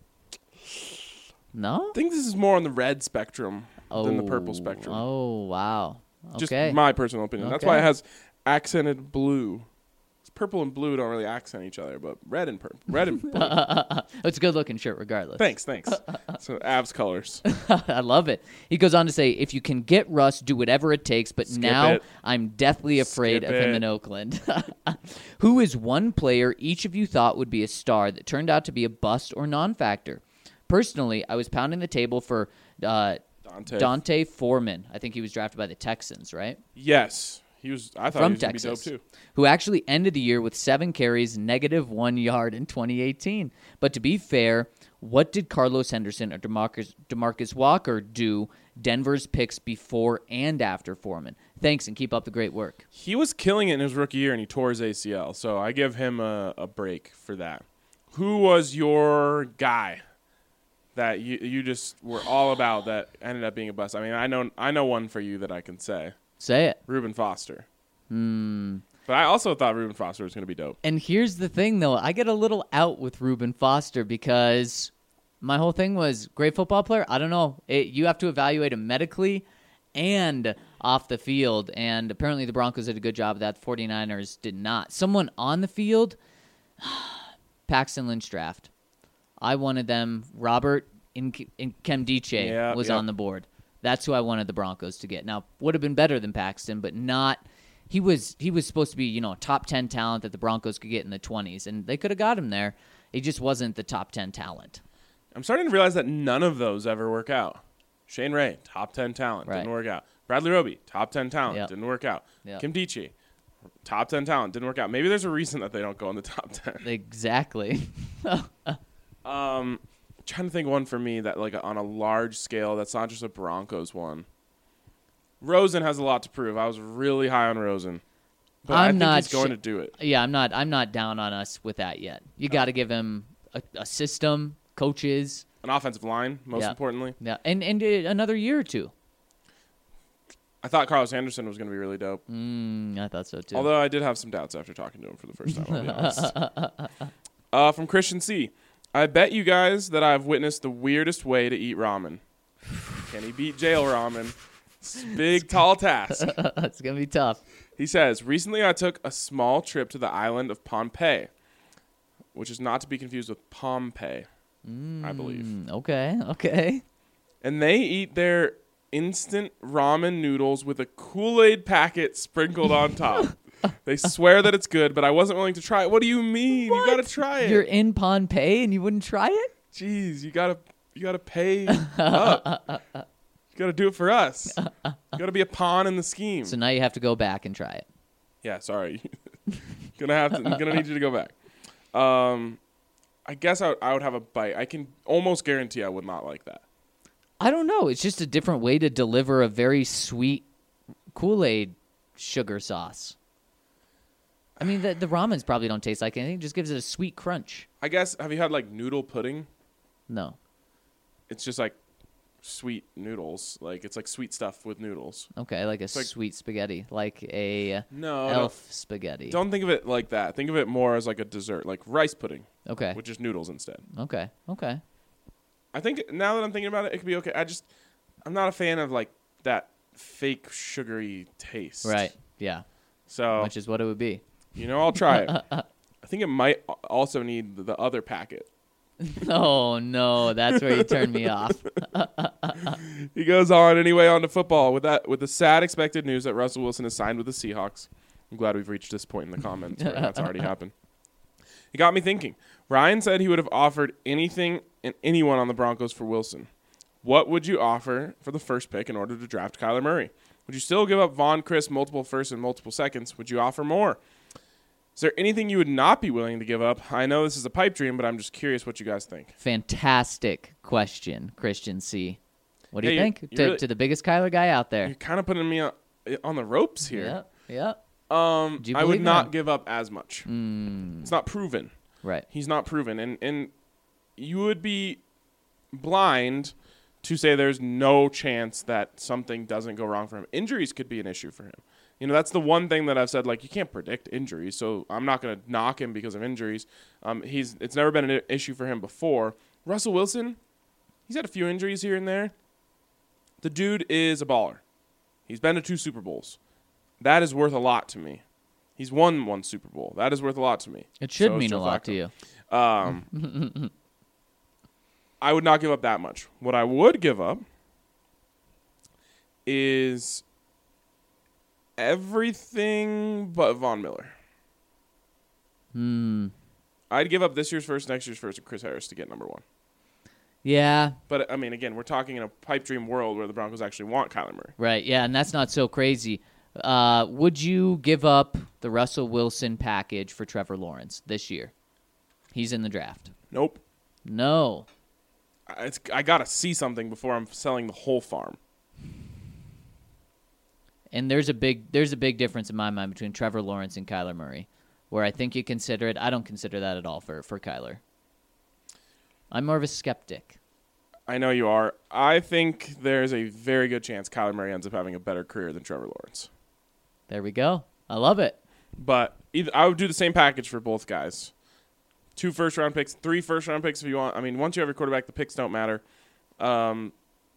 No? I think this is more on the red spectrum than the purple spectrum. Oh, wow. Just Okay. my personal opinion. That's Okay. why it has accented blue. Purple and blue don't really accent each other, but red and purple. Red and blue. It's a good looking shirt regardless. Thanks. So Avs colors. I love it. He goes on to say, if you can get Russ, do whatever it takes, but Skip now it. I'm deathly afraid Skip of him it. in Oakland. Who is one player each of you thought would be a star that turned out to be a bust or non-factor? Personally, I was pounding the table for Dante Foreman. I think he was drafted by the Texans, right? Yes. I thought From he was going to be dope Texas, too. who actually ended the year with 7 carries, -1 yard in 2018. But to be fair, what did Carlos Henderson or DeMarcus Walker do Denver's picks before and after Foreman? Thanks, and keep up the great work. He was killing it in his rookie year, and he tore his ACL. So I give him a break for that. Who was your guy that you just were all about that ended up being a bust? I mean, I know one for you that I can say. Say it. Reuben Foster. But I also thought Reuben Foster was going to be dope. And here's the thing, though. I get a little out with Reuben Foster because my whole thing was great football player. I don't know. You have to evaluate him medically and off the field. And apparently the Broncos did a good job of that. The 49ers did not. Someone on the field, Paxton Lynch draft. I wanted them. Robert Nkemdiche was on the board. That's who I wanted the Broncos to get. Now, would have been better than Paxton, but not. He was supposed to be, a top 10 talent that the Broncos could get in the 20s, and they could have got him there. He just wasn't the top 10 talent. I'm starting to realize that none of those ever work out. Shane Ray, top 10 talent, Right. didn't work out. Bradley Roby, top 10 talent, Yep. didn't work out. Yep. Kim Dichie, top 10 talent, didn't work out. Maybe there's a reason that they don't go in the top 10. Exactly. Trying to think of one for me that like on a large scale that's not just a Broncos one. Rosen has a lot to prove. I was really high on Rosen, but I think he's going to do it. Yeah, I'm not down on us with that yet. You got to give him a system, coaches, An offensive line, most Yeah. importantly. yeah, and another year or two. I thought Carlos Anderson was going to be really dope. I thought so too. Although I did have some doubts after talking to him for the first time, I'll be honest. From Christian C. I bet you guys that I've witnessed the weirdest way to eat ramen. Can he beat jail ramen? It's a big, tall task. It's gonna be tough. He says, recently I took a small trip to the island of Pompeii, which is not to be confused with Pompeii, I believe. Okay. And they eat their instant ramen noodles with a Kool-Aid packet sprinkled on top. They swear that it's good, but I wasn't willing to try it. What do you mean? You gotta try it. You're in Pompeii and you wouldn't try it? Jeez, you gotta pay up. You gotta do it for us. You gotta be a pawn in the scheme. So now you have to go back and try it. Yeah, sorry. gonna need you to go back. I guess I would have a bite. I can almost guarantee I would not like that. I don't know. It's just a different way to deliver a very sweet Kool-Aid sugar sauce. I mean, the ramens probably don't taste like anything. It just gives it a sweet crunch. I guess, have you had like noodle pudding? No. It's just like sweet noodles. Like it's like sweet stuff with noodles. Okay, like a like- sweet spaghetti. Like a No, elf spaghetti. don't think of it like that. Think of it more as like a dessert, like rice pudding, Okay. with just noodles instead. Okay. I think now that I'm thinking about it, it could be okay. I'm not a fan of like that fake sugary taste. Right. Yeah. So, Which is what it would be. I'll try it. I think it might also need the other packet. Oh, no. That's where you turned me off. He goes on anyway on to football with the sad expected news that Russell Wilson is signed with the Seahawks. I'm glad we've reached this point in the comments where that's already happened. It got me thinking. Ryan said he would have offered anything and anyone on the Broncos for Wilson. What would you offer for the first pick in order to draft Kyler Murray? Would you still give up Von Chris multiple firsts and multiple seconds? Would you offer more? Is there anything you would not be willing to give up? I know this is a pipe dream, but I'm just curious what you guys think. Fantastic question, Christian C. What do you Hey, think? you To really- the biggest Kyler guy out there. You're kind of putting me on the ropes here. Yep. Yep. Do you I would believe not him? give up as much. It's not proven. Right. He's not proven. And you would be blind to say there's no chance that something doesn't go wrong for him. Injuries could be an issue for him. You know, that's the one thing that I've said, like, you can't predict injuries, so I'm not going to knock him because of injuries. It's never been an issue for him before. Russell Wilson, he's had a few injuries here and there. The dude is a baller. He's been to 2 Super Bowls. That is worth a lot to me. He's won 1 Super Bowl. That is worth a lot to me. It should So is mean Joe a lot to Flacco. you. I would not give up that much. What I would give up is everything but Von Miller. I'd give up this year's first, next year's first, and Chris Harris to get number 1. Yeah. But, I mean, again, we're talking in a pipe dream world where the Broncos actually want Kyler Murray. Right. Yeah, and that's not so crazy. Would you give up the Russell Wilson package for Trevor Lawrence this year? He's in the draft. Nope. No. I got to see something before I'm selling the whole farm. And there's a big difference in my mind between Trevor Lawrence and Kyler Murray, where I think you consider it. I don't consider that at all for Kyler. I'm more of a skeptic. I know you are. I think there's a very good chance Kyler Murray ends up having a better career than Trevor Lawrence. There we go. I love it. But I would do the same package for both guys. 2 first-round picks, 3 first-round picks if you want. I mean, once you have your quarterback, the picks don't matter. But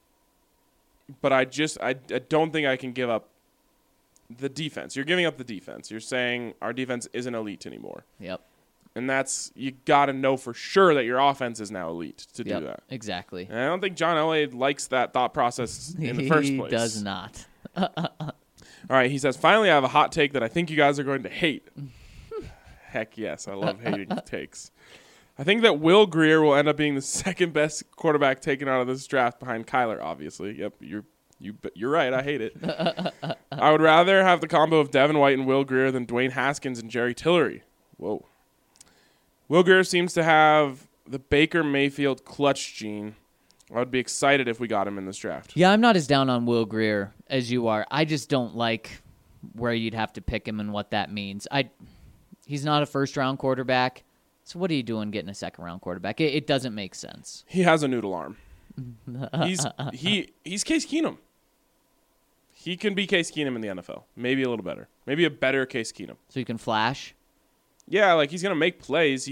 I don't think I can give up the defense. You're giving up the defense. You're saying our defense isn't elite anymore. Yep. And that's, you got to know for sure that your offense is now elite to do Yep. that. Exactly. And I don't think John Elway likes that thought process in the first place. He does not. All right, he says, finally I have a hot take that I think you guys are going to hate. Heck yes, I love hating takes. I think that Will Grier will end up being the second best quarterback taken out of this draft behind Kyler, obviously. Yep, you're right, I hate it. I would rather have the combo of Devin White and Will Grier than Dwayne Haskins and Jerry Tillery. Whoa. Will Grier seems to have the Baker Mayfield clutch gene. I would be excited if we got him in this draft. Yeah, I'm not as down on Will Grier as you are. I just don't like where you'd have to pick him and what that means. He's not a first-round quarterback, so what are you doing getting a second-round quarterback? It doesn't make sense. He has a noodle arm. He's Case Keenum. He can be Case Keenum in the NFL. Maybe a little better. Maybe a better Case Keenum. So you can flash? Yeah, like he's going to make plays.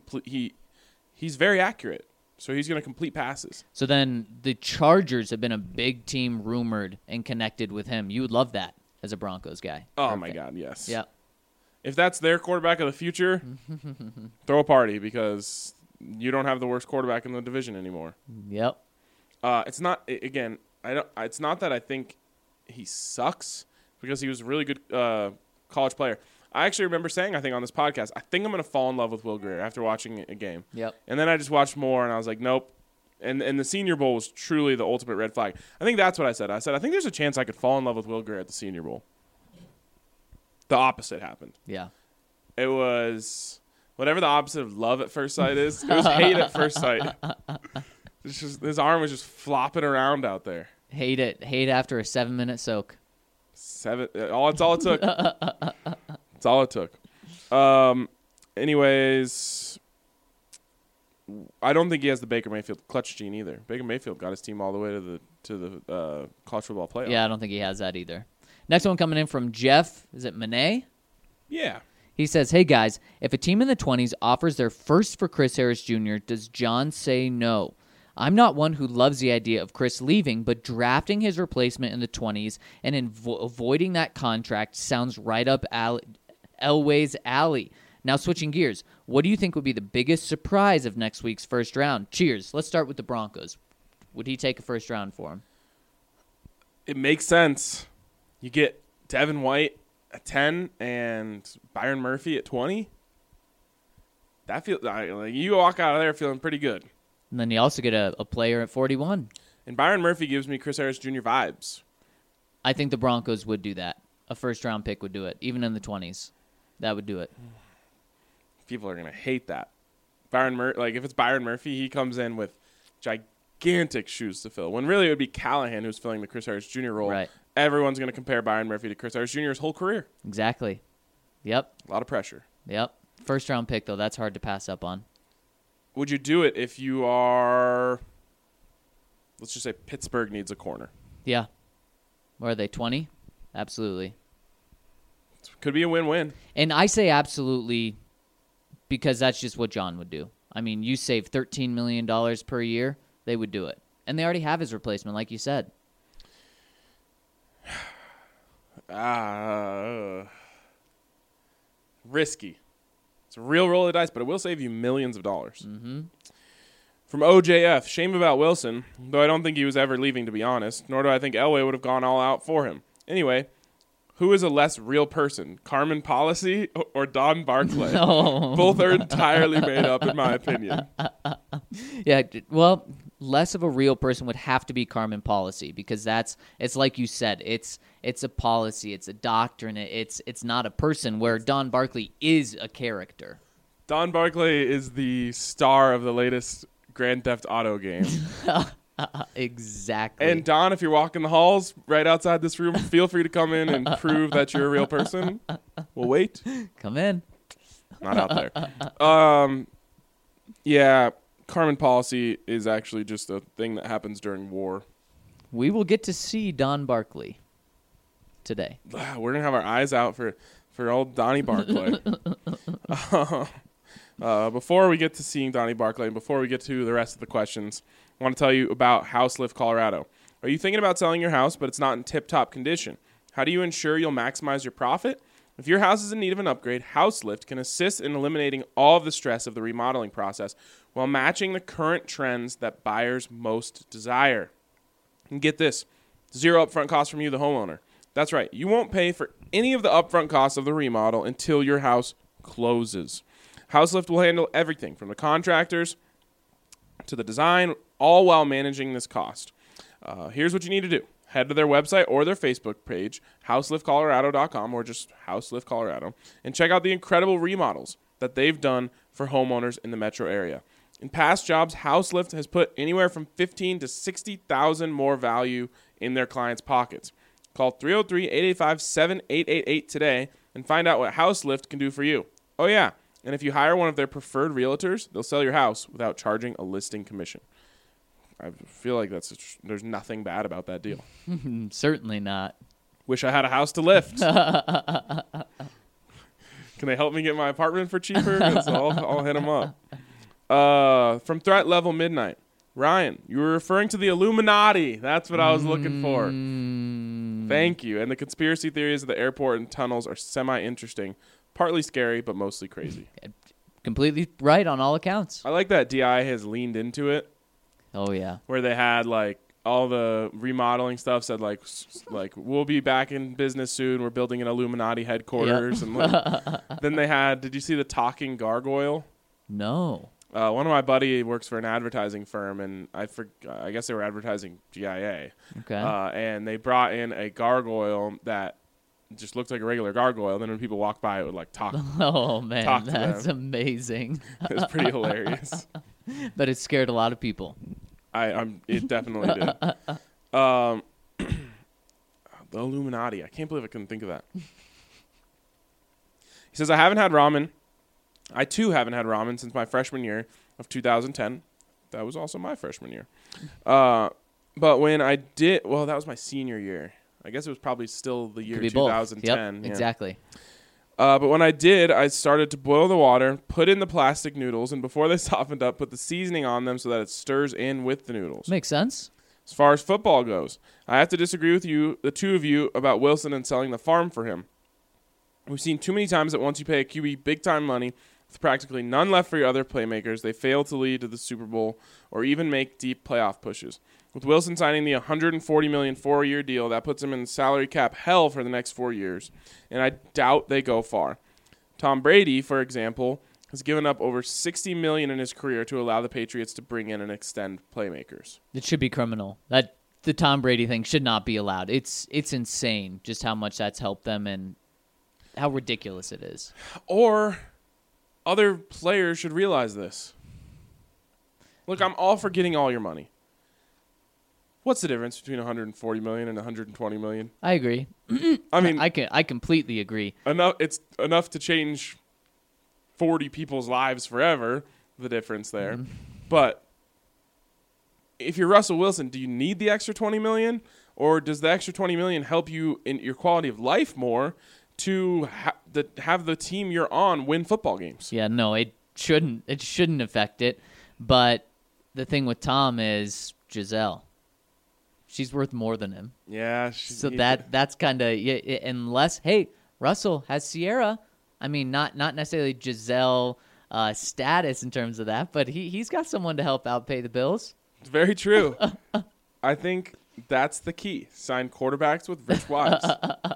He's very accurate. So he's going to complete passes. So then the Chargers have been a big team rumored and connected with him. You would love that as a Broncos guy. Oh, my God, yes. Yeah. If that's their quarterback of the future, throw a party because you don't have the worst quarterback in the division anymore. Yep. It's not, again, it's not that I think he sucks because he was a really good college player. I actually remember saying, I think on this podcast, I think I'm going to fall in love with Will Grier after watching a game. Yep. And then I just watched more, and I was like, nope. And the Senior Bowl was truly the ultimate red flag. I think that's what I said. I said, I think there's a chance I could fall in love with Will Grier at the Senior Bowl. The opposite happened. Yeah. It was whatever the opposite of love at first sight is. It was hate at first sight. It's just, his arm was just flopping around out there. Hate it. Hate after a 7-minute soak. That's all it took. That's all it took. Anyways, I don't think he has the Baker Mayfield clutch gene either. Baker Mayfield got his team all the way to the college football playoff. Yeah, I don't think he has that either. Next one coming in from Jeff. Is it Monet? Yeah. He says, hey, guys, if a team in the 20s offers their first for Chris Harris Jr., does John say no? I'm not one who loves the idea of Chris leaving, but drafting his replacement in the 20s and avoiding that contract sounds right up Elway's alley. Now, switching gears, what do you think would be the biggest surprise of next week's first round? Cheers. Let's start with the Broncos. Would he take a first round for him? It makes sense. You get Devin White at 10 and Byron Murphy at 20. That feels like you walk out of there feeling pretty good. And then you also get a player at 41. And Byron Murphy gives me Chris Harris Jr. vibes. I think the Broncos would do that. A first-round pick would do it, even in the 20s. That would do it. People are going to hate that. If it's Byron Murphy, he comes in with gigantic shoes to fill. When really it would be Callahan who's filling the Chris Harris Jr. role. Right. Everyone's going to compare Byron Murphy to Chris Harris Jr.'s whole career. Exactly. Yep. A lot of pressure. Yep. First round pick, though, that's hard to pass up on. Would you do it if you are, let's just say Pittsburgh needs a corner? Yeah. What are they, 20? Absolutely. Could be a win-win. And I say absolutely because that's just what John would do. I mean, you save $13 million per year, they would do it. And they already have his replacement, like you said. Risky. It's a real roll of the dice, but it will save you millions of dollars. Mm-hmm. From OJF, shame about Wilson, though I don't think he was ever leaving, to be honest, nor do I think Elway would have gone all out for him. Anyway, who is a less real person, Carmen Policy or Don Barclay? No. Both are entirely made up, in my opinion. Yeah, well, less of a real person would have to be Carmen Policy because it's like you said, it's a policy, it's a doctrine, it's not a person, where Don Barclay is a character. Don Barclay is the star of the latest Grand Theft Auto game. Exactly. And Don, if you're walking the halls right outside this room, feel free to come in and prove that you're a real person. We'll wait. Come in. Not out there. Yeah, Carmen Policy is actually just a thing that happens during war. We will get to see Don Barclay today. We're going to have our eyes out for old Donnie Barclay. Before we get to seeing Donnie Barclay and before we get to the rest of the questions, I want to tell you about House Lift Colorado. Are you thinking about selling your house, but it's not in tip-top condition? How do you ensure you'll maximize your profit? If your house is in need of an upgrade, House Lift can assist in eliminating all of the stress of the remodeling process while matching the current trends that buyers most desire. And get this, zero upfront costs from you, the homeowner. That's right, you won't pay for any of the upfront costs of the remodel until your house closes. House Lift will handle everything from the contractors to the design, all while managing this cost. Here's what you need to do. Head to their website or their Facebook page, houseliftcolorado.com, or just House Lift Colorado, and check out the incredible remodels that they've done for homeowners in the metro area. In past jobs, House Lift has put anywhere from $15,000 to $60,000 more value in their clients' pockets. Call 303-885-7888 today and find out what House Lift can do for you. Oh, yeah. And if you hire one of their preferred realtors, they'll sell your house without charging a listing commission. I feel like there's nothing bad about that deal. Certainly not. Wish I had a house to lift. Can they help me get my apartment for cheaper? 'Cause I'll hit them up. From Threat Level Midnight. Ryan, you were referring to the Illuminati. That's what I was looking for. Thank you. And the conspiracy theories of the airport and tunnels are semi-interesting. Partly scary, but mostly crazy. Completely right on all accounts. I like that DI has leaned into it. Oh, yeah. Where they had, like, all the remodeling stuff said, like we'll be back in business soon. We're building an Illuminati headquarters. Yep. And then they had, did you see the talking gargoyle? No. One of my buddy works for an advertising firm, and I guess they were advertising GIA. Okay. And they brought in a gargoyle that just looked like a regular gargoyle. Then when people walked by, it would like talk. Oh man, talk that's amazing. It was pretty hilarious. But it scared a lot of people. It definitely did. The Illuminati. I can't believe I couldn't think of that. He says, I haven't had ramen. I too haven't had ramen since my freshman year of 2010. That was also my freshman year. But when I did, well, that was my senior year. I guess it was probably still the year 2010. Yep, exactly. But when I did, I started to boil the water, put in the plastic noodles, and before they softened up, put the seasoning on them so that it stirs in with the noodles. Makes sense. As far as football goes, I have to disagree with you, the two of you, about Wilson and selling the farm for him. We've seen too many times that once you pay a QB big-time money, with practically none left for your other playmakers, they fail to lead to the Super Bowl or even make deep playoff pushes. With Wilson signing the $140 million 4-year deal, that puts him in salary cap hell for the next 4 years, and I doubt they go far. Tom Brady, for example, has given up over $60 million in his career to allow the Patriots to bring in and extend playmakers. It should be criminal. That the Tom Brady thing should not be allowed. It's insane just how much that's helped them and how ridiculous it is. Or other players should realize this. Look, I'm all for getting all your money. What's the difference between 140 million and 120 million? I agree. I mean, I completely agree. it's enough to change 40 people's lives forever, the difference there. But if you're Russell Wilson, do you need the extra 20 million, or does the extra 20 million help you in your quality of life more to have the team you're on win football games? Yeah, no, it shouldn't affect it. But the thing with Tom is Giselle. She's worth more than him. Yeah. So that's kind of, unless, hey, Russell has Sierra. I mean, not necessarily Giselle status in terms of that, but he's got someone to help out pay the bills. It's very true. I think that's the key. Sign quarterbacks with rich wives.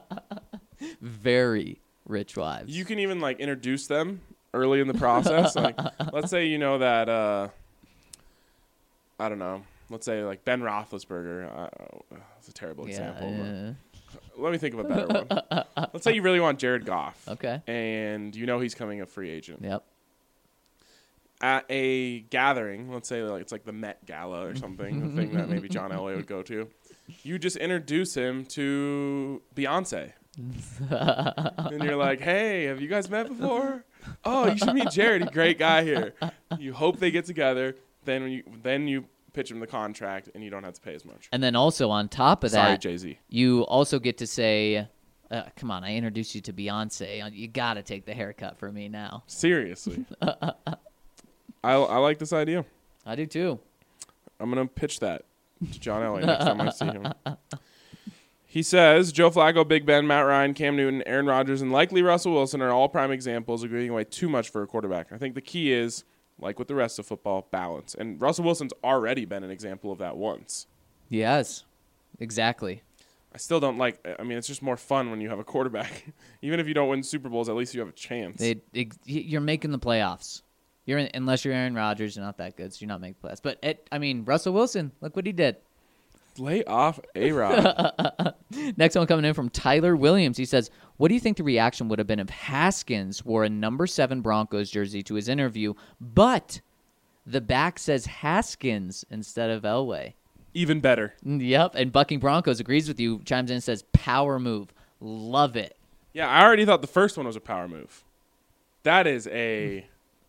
Very rich wives. You can even like introduce them early in the process. Like, let's say you know that I don't know. Let's say like Ben Roethlisberger. That's a terrible example. Yeah. Let me think of a better one. Let's say you really want Jared Goff. Okay. And you know he's coming a free agent. Yep. At a gathering, let's say like it's like the Met Gala or something, the thing that maybe John Elway would go to. You just introduce him to Beyonce. And you're like, hey, have you guys met before? Oh, you should meet Jared. He's a great guy here. You hope they get together. Then you pitch him the contract, and you don't have to pay as much. And then also on top of Sorry, that, Jay-Z. you also get to say, come on, I introduced you to Beyonce. You got to take the haircut for me now. Seriously. I like this idea. I do too. I'm going to pitch that to John Elway next time I see him. He says, Joe Flacco, Big Ben, Matt Ryan, Cam Newton, Aaron Rodgers, and likely Russell Wilson are all prime examples of giving away too much for a quarterback. I think the key is, like with the rest of football, balance. And Russell Wilson's already been an example of that once. Yes, exactly. I still don't like, I mean, it's just more fun when you have a quarterback. Even if you don't win Super Bowls, at least you have a chance. You're making the playoffs. Unless you're Aaron Rodgers, you're not that good, so you're not making playoffs. But, Russell Wilson, look what he did. Lay off A-Rod. Next one coming in from Tyler Williams. He says, what do you think the reaction would have been if Haskins wore a number 7 Broncos jersey to his interview, but the back says Haskins instead of Elway? Even better. Yep, and Bucking Broncos agrees with you, chimes in and says, power move. Love it. Yeah, I already thought the first one was a power move. That is a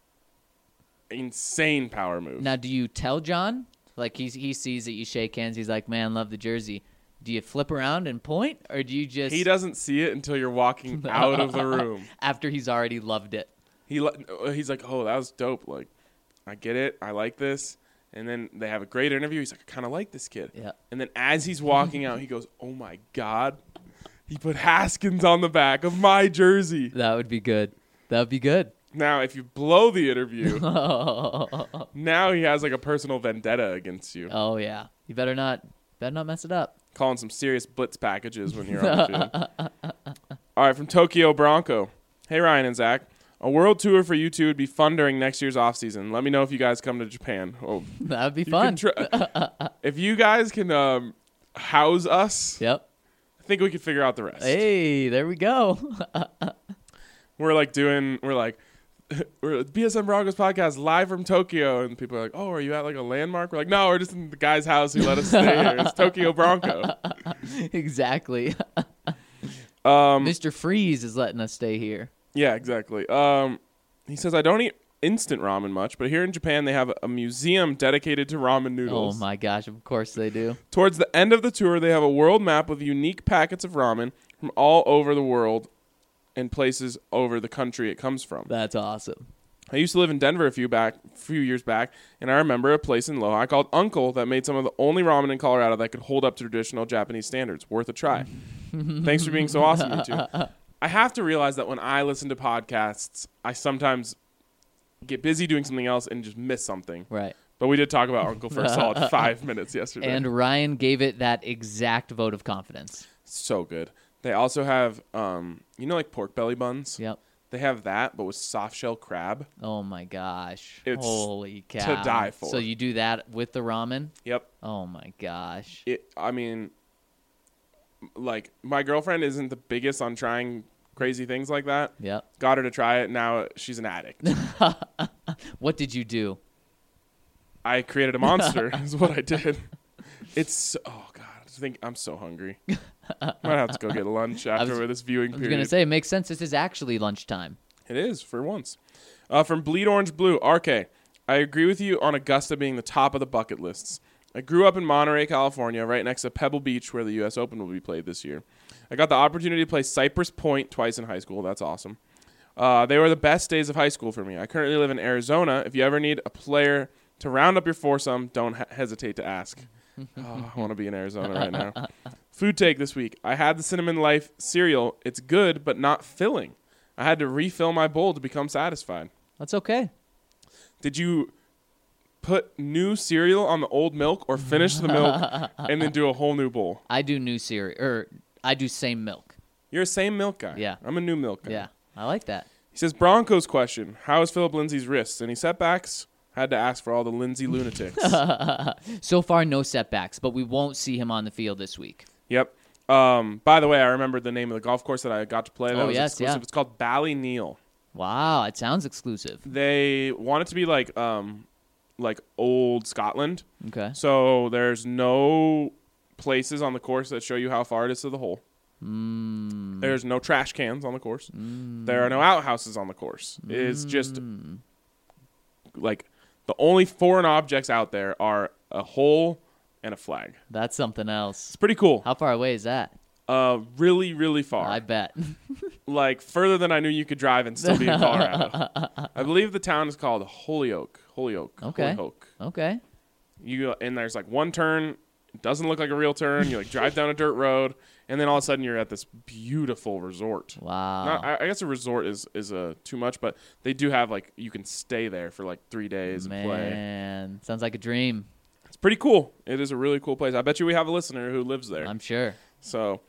insane power move. Now, do you tell John? Like, he sees that you shake hands. He's like, man, love the jersey. Do you flip around and point, or do you just... He doesn't see it until you're walking out of the room. After he's already loved it. He's like, oh, that was dope. Like, I get it. I like this. And then they have a great interview. He's like, I kind of like this kid. Yeah. And then as he's walking out, he goes, oh, my God. He put Haskins on the back of my jersey. That would be good. That would be good. Now, if you blow the interview, now he has like a personal vendetta against you. Oh, yeah. You better not mess it up. Calling some serious blitz packages when you're on the field. All right, from Tokyo Bronco. Hey, Ryan and Zach. A world tour for you two would be fun during next year's offseason. Let me know if you guys come to Japan. Oh, that would be fun. If you guys can house us, yep. I think we could figure out the rest. Hey, there we go. We're BSM Broncos podcast live from Tokyo, and people are like, "Oh, are you at like a landmark?" We're like, "No, we're just in the guy's house who let us stay here. It's Tokyo Bronco." Exactly. Mr. Freeze is letting us stay here. Yeah, exactly. He says, "I don't eat instant ramen much, but here in Japan they have a museum dedicated to ramen noodles." Oh my gosh, of course they do. Towards the end of the tour, they have a world map with unique packets of ramen from all over the world and places over the country it comes from. That's awesome. I used to live in Denver a few years back, and I remember a place in Lohi called Uncle that made some of the only ramen in Colorado that could hold up to traditional Japanese standards. Worth a try. Thanks for being so awesome, you two. I have to realize that when I listen to podcasts, I sometimes get busy doing something else and just miss something. Right. But we did talk about Uncle for a solid 5 minutes yesterday. And Ryan gave it that exact vote of confidence. So good. They also have, like pork belly buns? Yep. They have that, but with soft shell crab. Oh, my gosh. It's holy cow. to die for. So you do that with the ramen? Yep. Oh, my gosh. My girlfriend isn't the biggest on trying crazy things like that. Yep. Got her to try it. Now she's an addict. What did you do? I created a monster is what I did. Oh God, I'm so hungry. Might have to go get lunch after this viewing I was period. going to say, it makes sense. This is actually lunchtime. It is, for once. From Bleed Orange Blue, RK. I agree with you on Augusta being the top of the bucket lists. I grew up in Monterey, California, right next to Pebble Beach, where the U.S. Open will be played this year. I got the opportunity to play Cypress Point twice in high school. That's awesome. They were the best days of high school for me. I currently live in Arizona. If you ever need a player to round up your foursome, don't hesitate to ask. I want to be in Arizona right now. Food take this week. I had the Cinnamon Life cereal. It's good, but not filling. I had to refill my bowl to become satisfied. That's okay. Did you put new cereal on the old milk or finish the milk and then do a whole new bowl? I do new cereal, or I do same milk. You're a same milk guy. Yeah. I'm a new milk guy. Yeah, I like that. He says, Broncos question. How is Philip Lindsay's wrists? Any setbacks? Had to ask for all the Lindsay lunatics. So far, no setbacks, but we won't see him on the field this week. Yep. By the way, I remember the name of the golf course that I got to play. That was yes, exclusive. yeah. It's called Ballyneal. Wow, it sounds exclusive. They want it to be like old Scotland. Okay. So there's no places on the course that show you how far it is to the hole. There's no trash cans on the course. There are no outhouses on the course. It's just like the only foreign objects out there are a hole and a flag. That's something else. It's pretty cool. How far away is that? Really, really far. I bet. Like further than I knew you could drive and still be in Colorado. I believe the town is called Holyoke. Okay. Holyoke. Okay. And there's like one turn. It doesn't look like a real turn. You like drive down a dirt road, and then all of a sudden you're at this beautiful resort. Wow. I guess a resort is too much, but they do have like you can stay there for like 3 days and play. Man, sounds like a dream. It's pretty cool. It is a really cool place. I bet you we have a listener who lives there. I'm sure. So,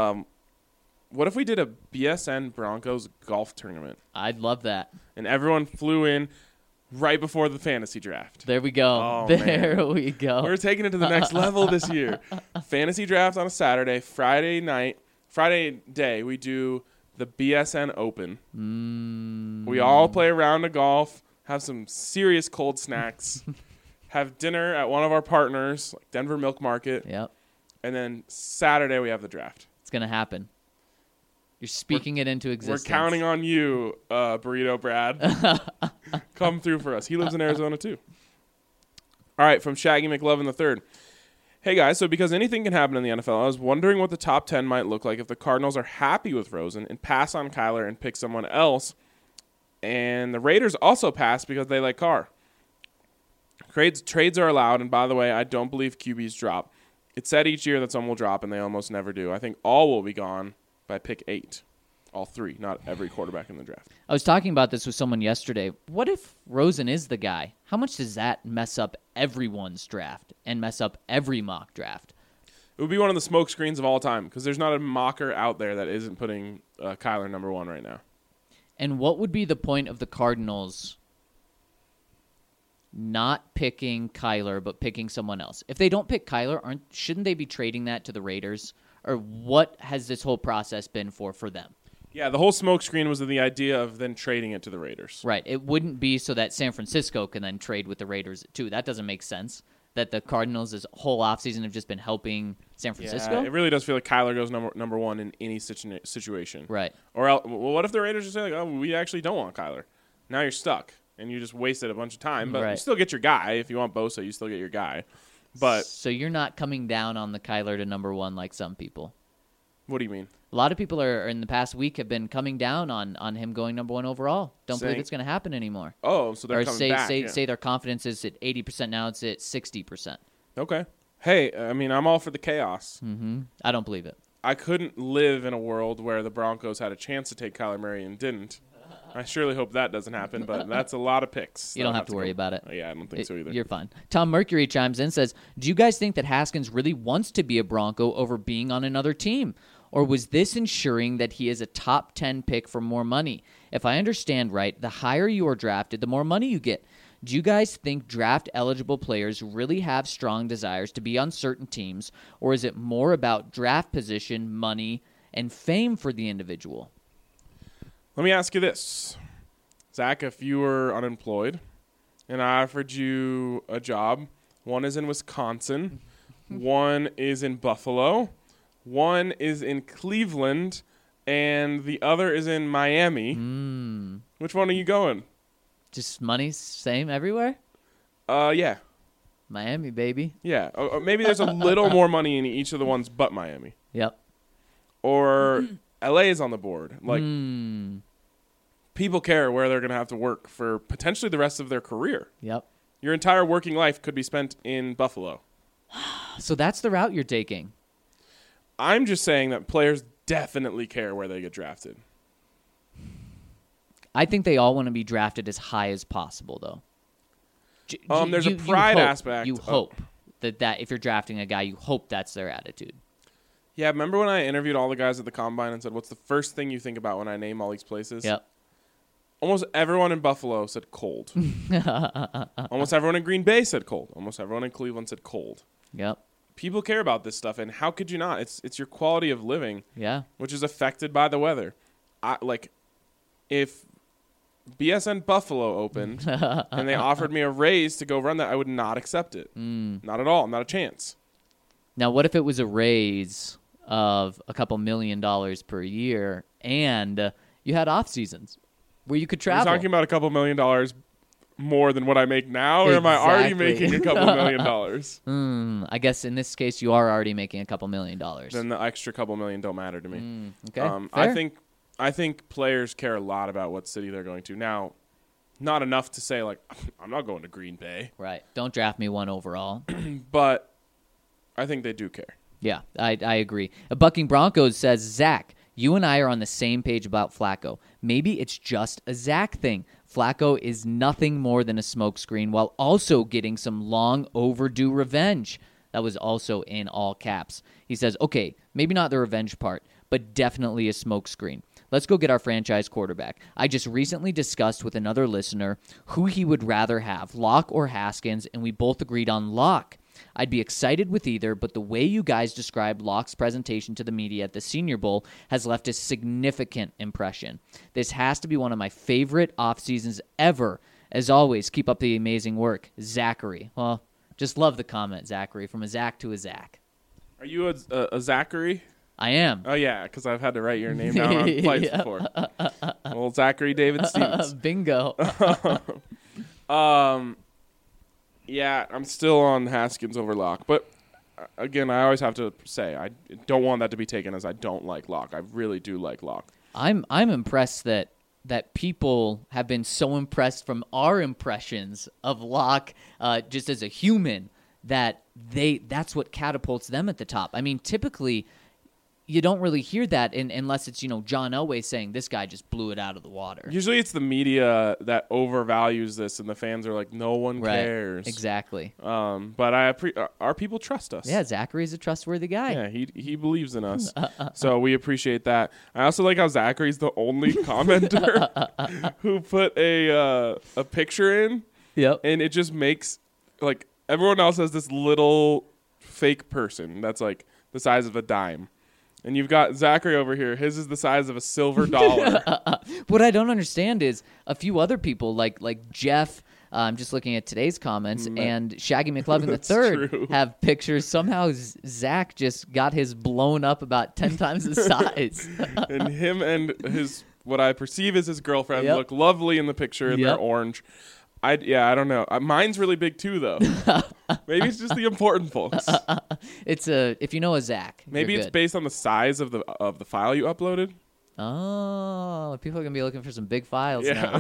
what if we did a BSN Broncos golf tournament I'd love that. and everyone flew in right before the fantasy draft? There we go. Oh, there man. we go. We're taking it to the next level this year. Fantasy draft on a Saturday. Friday day, we do the BSN Open. We all play a round of golf, have some serious cold snacks, have dinner at one of our partners, like Denver Milk Market, Yep. and then Saturday we have the draft. It's going to happen. You're speaking it into existence. We're counting on you, Burrito Brad. Come through for us. He lives in Arizona, too. All right, from Shaggy McLovin III. Hey, guys, so because anything can happen in the NFL, I was wondering what the top 10 might look like if the Cardinals are happy with Rosen and pass on Kyler and pick someone else, and the Raiders also pass because they like Carr. Trades are allowed, and by the way, I don't believe QBs drop. It's said each year that some will drop, and they almost never do. I think all will be gone by pick 8. All 3, not every quarterback in the draft. I was talking about this with someone yesterday. What if Rosen is the guy? How much does that mess up everyone's draft and mess up every mock draft? It would be one of the smoke screens of all time because there's not a mocker out there that isn't putting Kyler number 1 right now. And what would be the point of the Cardinals not picking Kyler but picking someone else? If they don't pick Kyler, shouldn't they be trading that to the Raiders? Or what has this whole process been for them? Yeah, the whole smoke screen was the idea of then trading it to the Raiders. Right. It wouldn't be so that San Francisco can then trade with the Raiders too. That doesn't make sense. That the Cardinals this whole offseason have just been helping San Francisco. Yeah, it really does feel like Kyler goes number 1 in any situation. Right. Or else, well, what if the Raiders just say, like, oh, we actually don't want Kyler? Now you're stuck, and you just wasted a bunch of time. But you still get your guy. If you want Bosa, you still get your guy. But so you're not coming down on the Kyler to number 1 like some people. What do you mean? A lot of people are in the past week have been coming down on him going number 1 overall. Don't believe it's going to happen anymore. Oh, so they're coming back. Say their confidence is at 80%. Now it's at 60%. Okay. Hey, I mean, I'm all for the chaos. Mm-hmm. I don't believe it. I couldn't live in a world where the Broncos had a chance to take Kyler Murray and didn't. I surely hope that doesn't happen, but that's a lot of picks. You don't have to worry about it. Yeah, I don't think so either. You're fine. Tom Mercury chimes in and says, do you guys think that Haskins really wants to be a Bronco over being on another team? Or was this ensuring that he is a top 10 pick for more money? If I understand right, the higher you are drafted, the more money you get. Do you guys think draft-eligible players really have strong desires to be on certain teams, or is it more about draft position, money, and fame for the individual? Let me ask you this. Zach, if you were unemployed and I offered you a job, one is in Wisconsin, one is in Buffalo, one is in Cleveland, and the other is in Miami. Which one are you going? Just money's same everywhere? Yeah. Miami, baby. Yeah. Maybe there's a little more money in each of the ones but Miami. Yep. Or LA is on the board. Like, people care where they're going to have to work for potentially the rest of their career. Yep. Your entire working life could be spent in Buffalo. So that's the route you're taking. I'm just saying that players definitely care where they get drafted. I think they all want to be drafted as high as possible, though. There's a pride aspect. You hope that if you're drafting a guy, you hope that's their attitude. Yeah, remember when I interviewed all the guys at the Combine and said, what's the first thing you think about when I name all these places? Yep. Almost everyone in Buffalo said cold. Almost everyone in Green Bay said cold. Almost everyone in Cleveland said cold. Yep. People care about this stuff, and how could you not? It's your quality of living, Yeah. which is affected by the weather. If BSN Buffalo opened and they offered me a raise to go run that, I would not accept it. Not at all. Not a chance. Now, what if it was a raise of a couple $1 million per year and you had off seasons where you could Are you travel? talking about a couple $1 million more than what I make now, or am I already Exactly. making a couple $1 million? I guess in this case, you are already making a couple $1 million. Then the extra couple million don't matter to me. Okay. Fair. I think players care a lot about what city they're going to. Now, not enough to say, like, I'm not going to Green Bay. Right. Don't draft me 1 overall. But I think they do care. Yeah, I agree. Bucking Broncos says, Zach, you and I are on the same page about Flacco. Maybe it's just a Zach thing. Flacco is nothing more than a smokescreen while also getting some long overdue revenge. That was also in all caps. He says, okay, maybe not the revenge part, but definitely a smokescreen. Let's go get our franchise quarterback. I just recently discussed with another listener who he would rather have, Locke or Haskins, and we both agreed on Locke. I'd be excited with either, but the way you guys described Locke's presentation to the media at the Senior Bowl has left a significant impression. This has to be one of my favorite off seasons ever. As always, keep up the amazing work. Zachary. Well, just love the comment, Zachary, from a Zach to a Zach. Are you a Zachary? I am. Oh, yeah, because I've had to write your name down on flights before. Well, Zachary David Stevens. Bingo. Yeah, I'm still on Haskins over Locke. But, again, I always have to say, I don't want that to be taken as I don't like Locke. I really do like Locke. I'm impressed that people have been so impressed from our impressions of Locke just as a human that's what catapults them at the top. I mean, typically you don't really hear that unless it's, John Elway saying this guy just blew it out of the water. Usually it's the media that overvalues this, and the fans are like, no one cares. Exactly. But our people trust us. Yeah, Zachary's a trustworthy guy. Yeah, he believes in us. So we appreciate that. I also like how Zachary's the only commenter who put a picture in. Yep. And it just makes, like, everyone else has this little fake person that's like the size of a dime. And you've got Zachary over here. His is the size of a silver dollar. What I don't understand is a few other people like Jeff, I'm just looking at today's comments, and Shaggy McLovin III have pictures. Somehow Zach just got his blown up about 10 times the size. And him and his, what I perceive as his girlfriend, look lovely in the picture, and they're orange. I don't know. Mine's really big too, though. Maybe it's just the important folks. It's if you know a Zach. Maybe it's based on the size of the file you uploaded. Oh, people are gonna be looking for some big files now.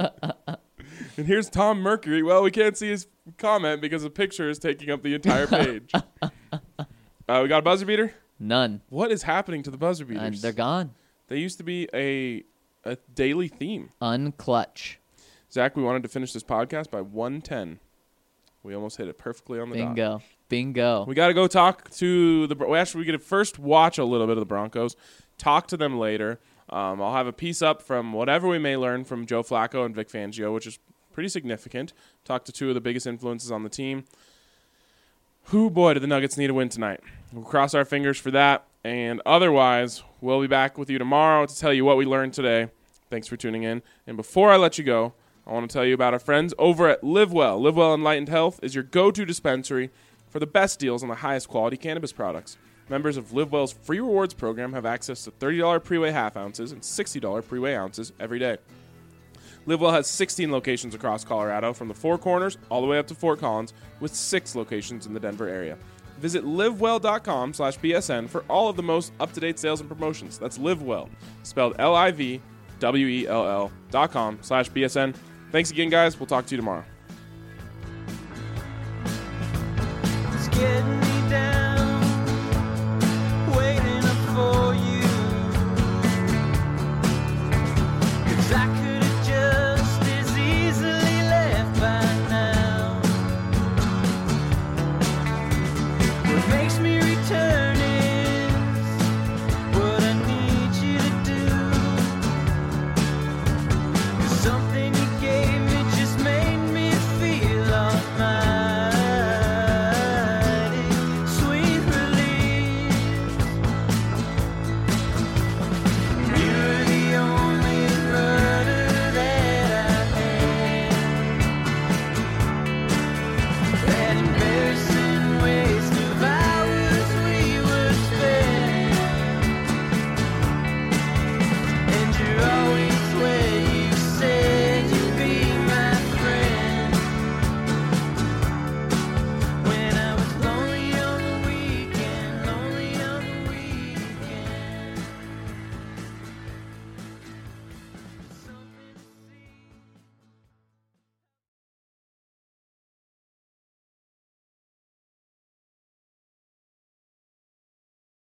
And here's Tom Mercury. Well, we can't see his comment because the picture is taking up the entire page. We got a buzzer beater? None. What is happening to the buzzer beaters? They're gone. They used to be a daily theme. Unclutch. Zach, we wanted to finish this podcast by 1:10. We almost hit it perfectly on the dot. Bingo. We got to go talk to we get to first watch a little bit of the Broncos, talk to them later. I'll have a piece up from whatever we may learn from Joe Flacco and Vic Fangio, which is pretty significant. Talk to two of the biggest influences on the team. Boy, do the Nuggets need a win tonight. We'll cross our fingers for that. And otherwise, we'll be back with you tomorrow to tell you what we learned today. Thanks for tuning in. And before I let you go, I want to tell you about our friends over at LiveWell. LiveWell Enlightened Health is your go-to dispensary for the best deals on the highest quality cannabis products. Members of LiveWell's free rewards program have access to $30 pre-weigh half ounces and $60 pre-weigh ounces every day. LiveWell has 16 locations across Colorado, from the Four Corners all the way up to Fort Collins, with 6 locations in the Denver area. Visit livewell.com/BSN for all of the most up-to-date sales and promotions. That's LiveWell, spelled LIVWELL.com/BSN. Thanks again, guys. We'll talk to you tomorrow. It's getting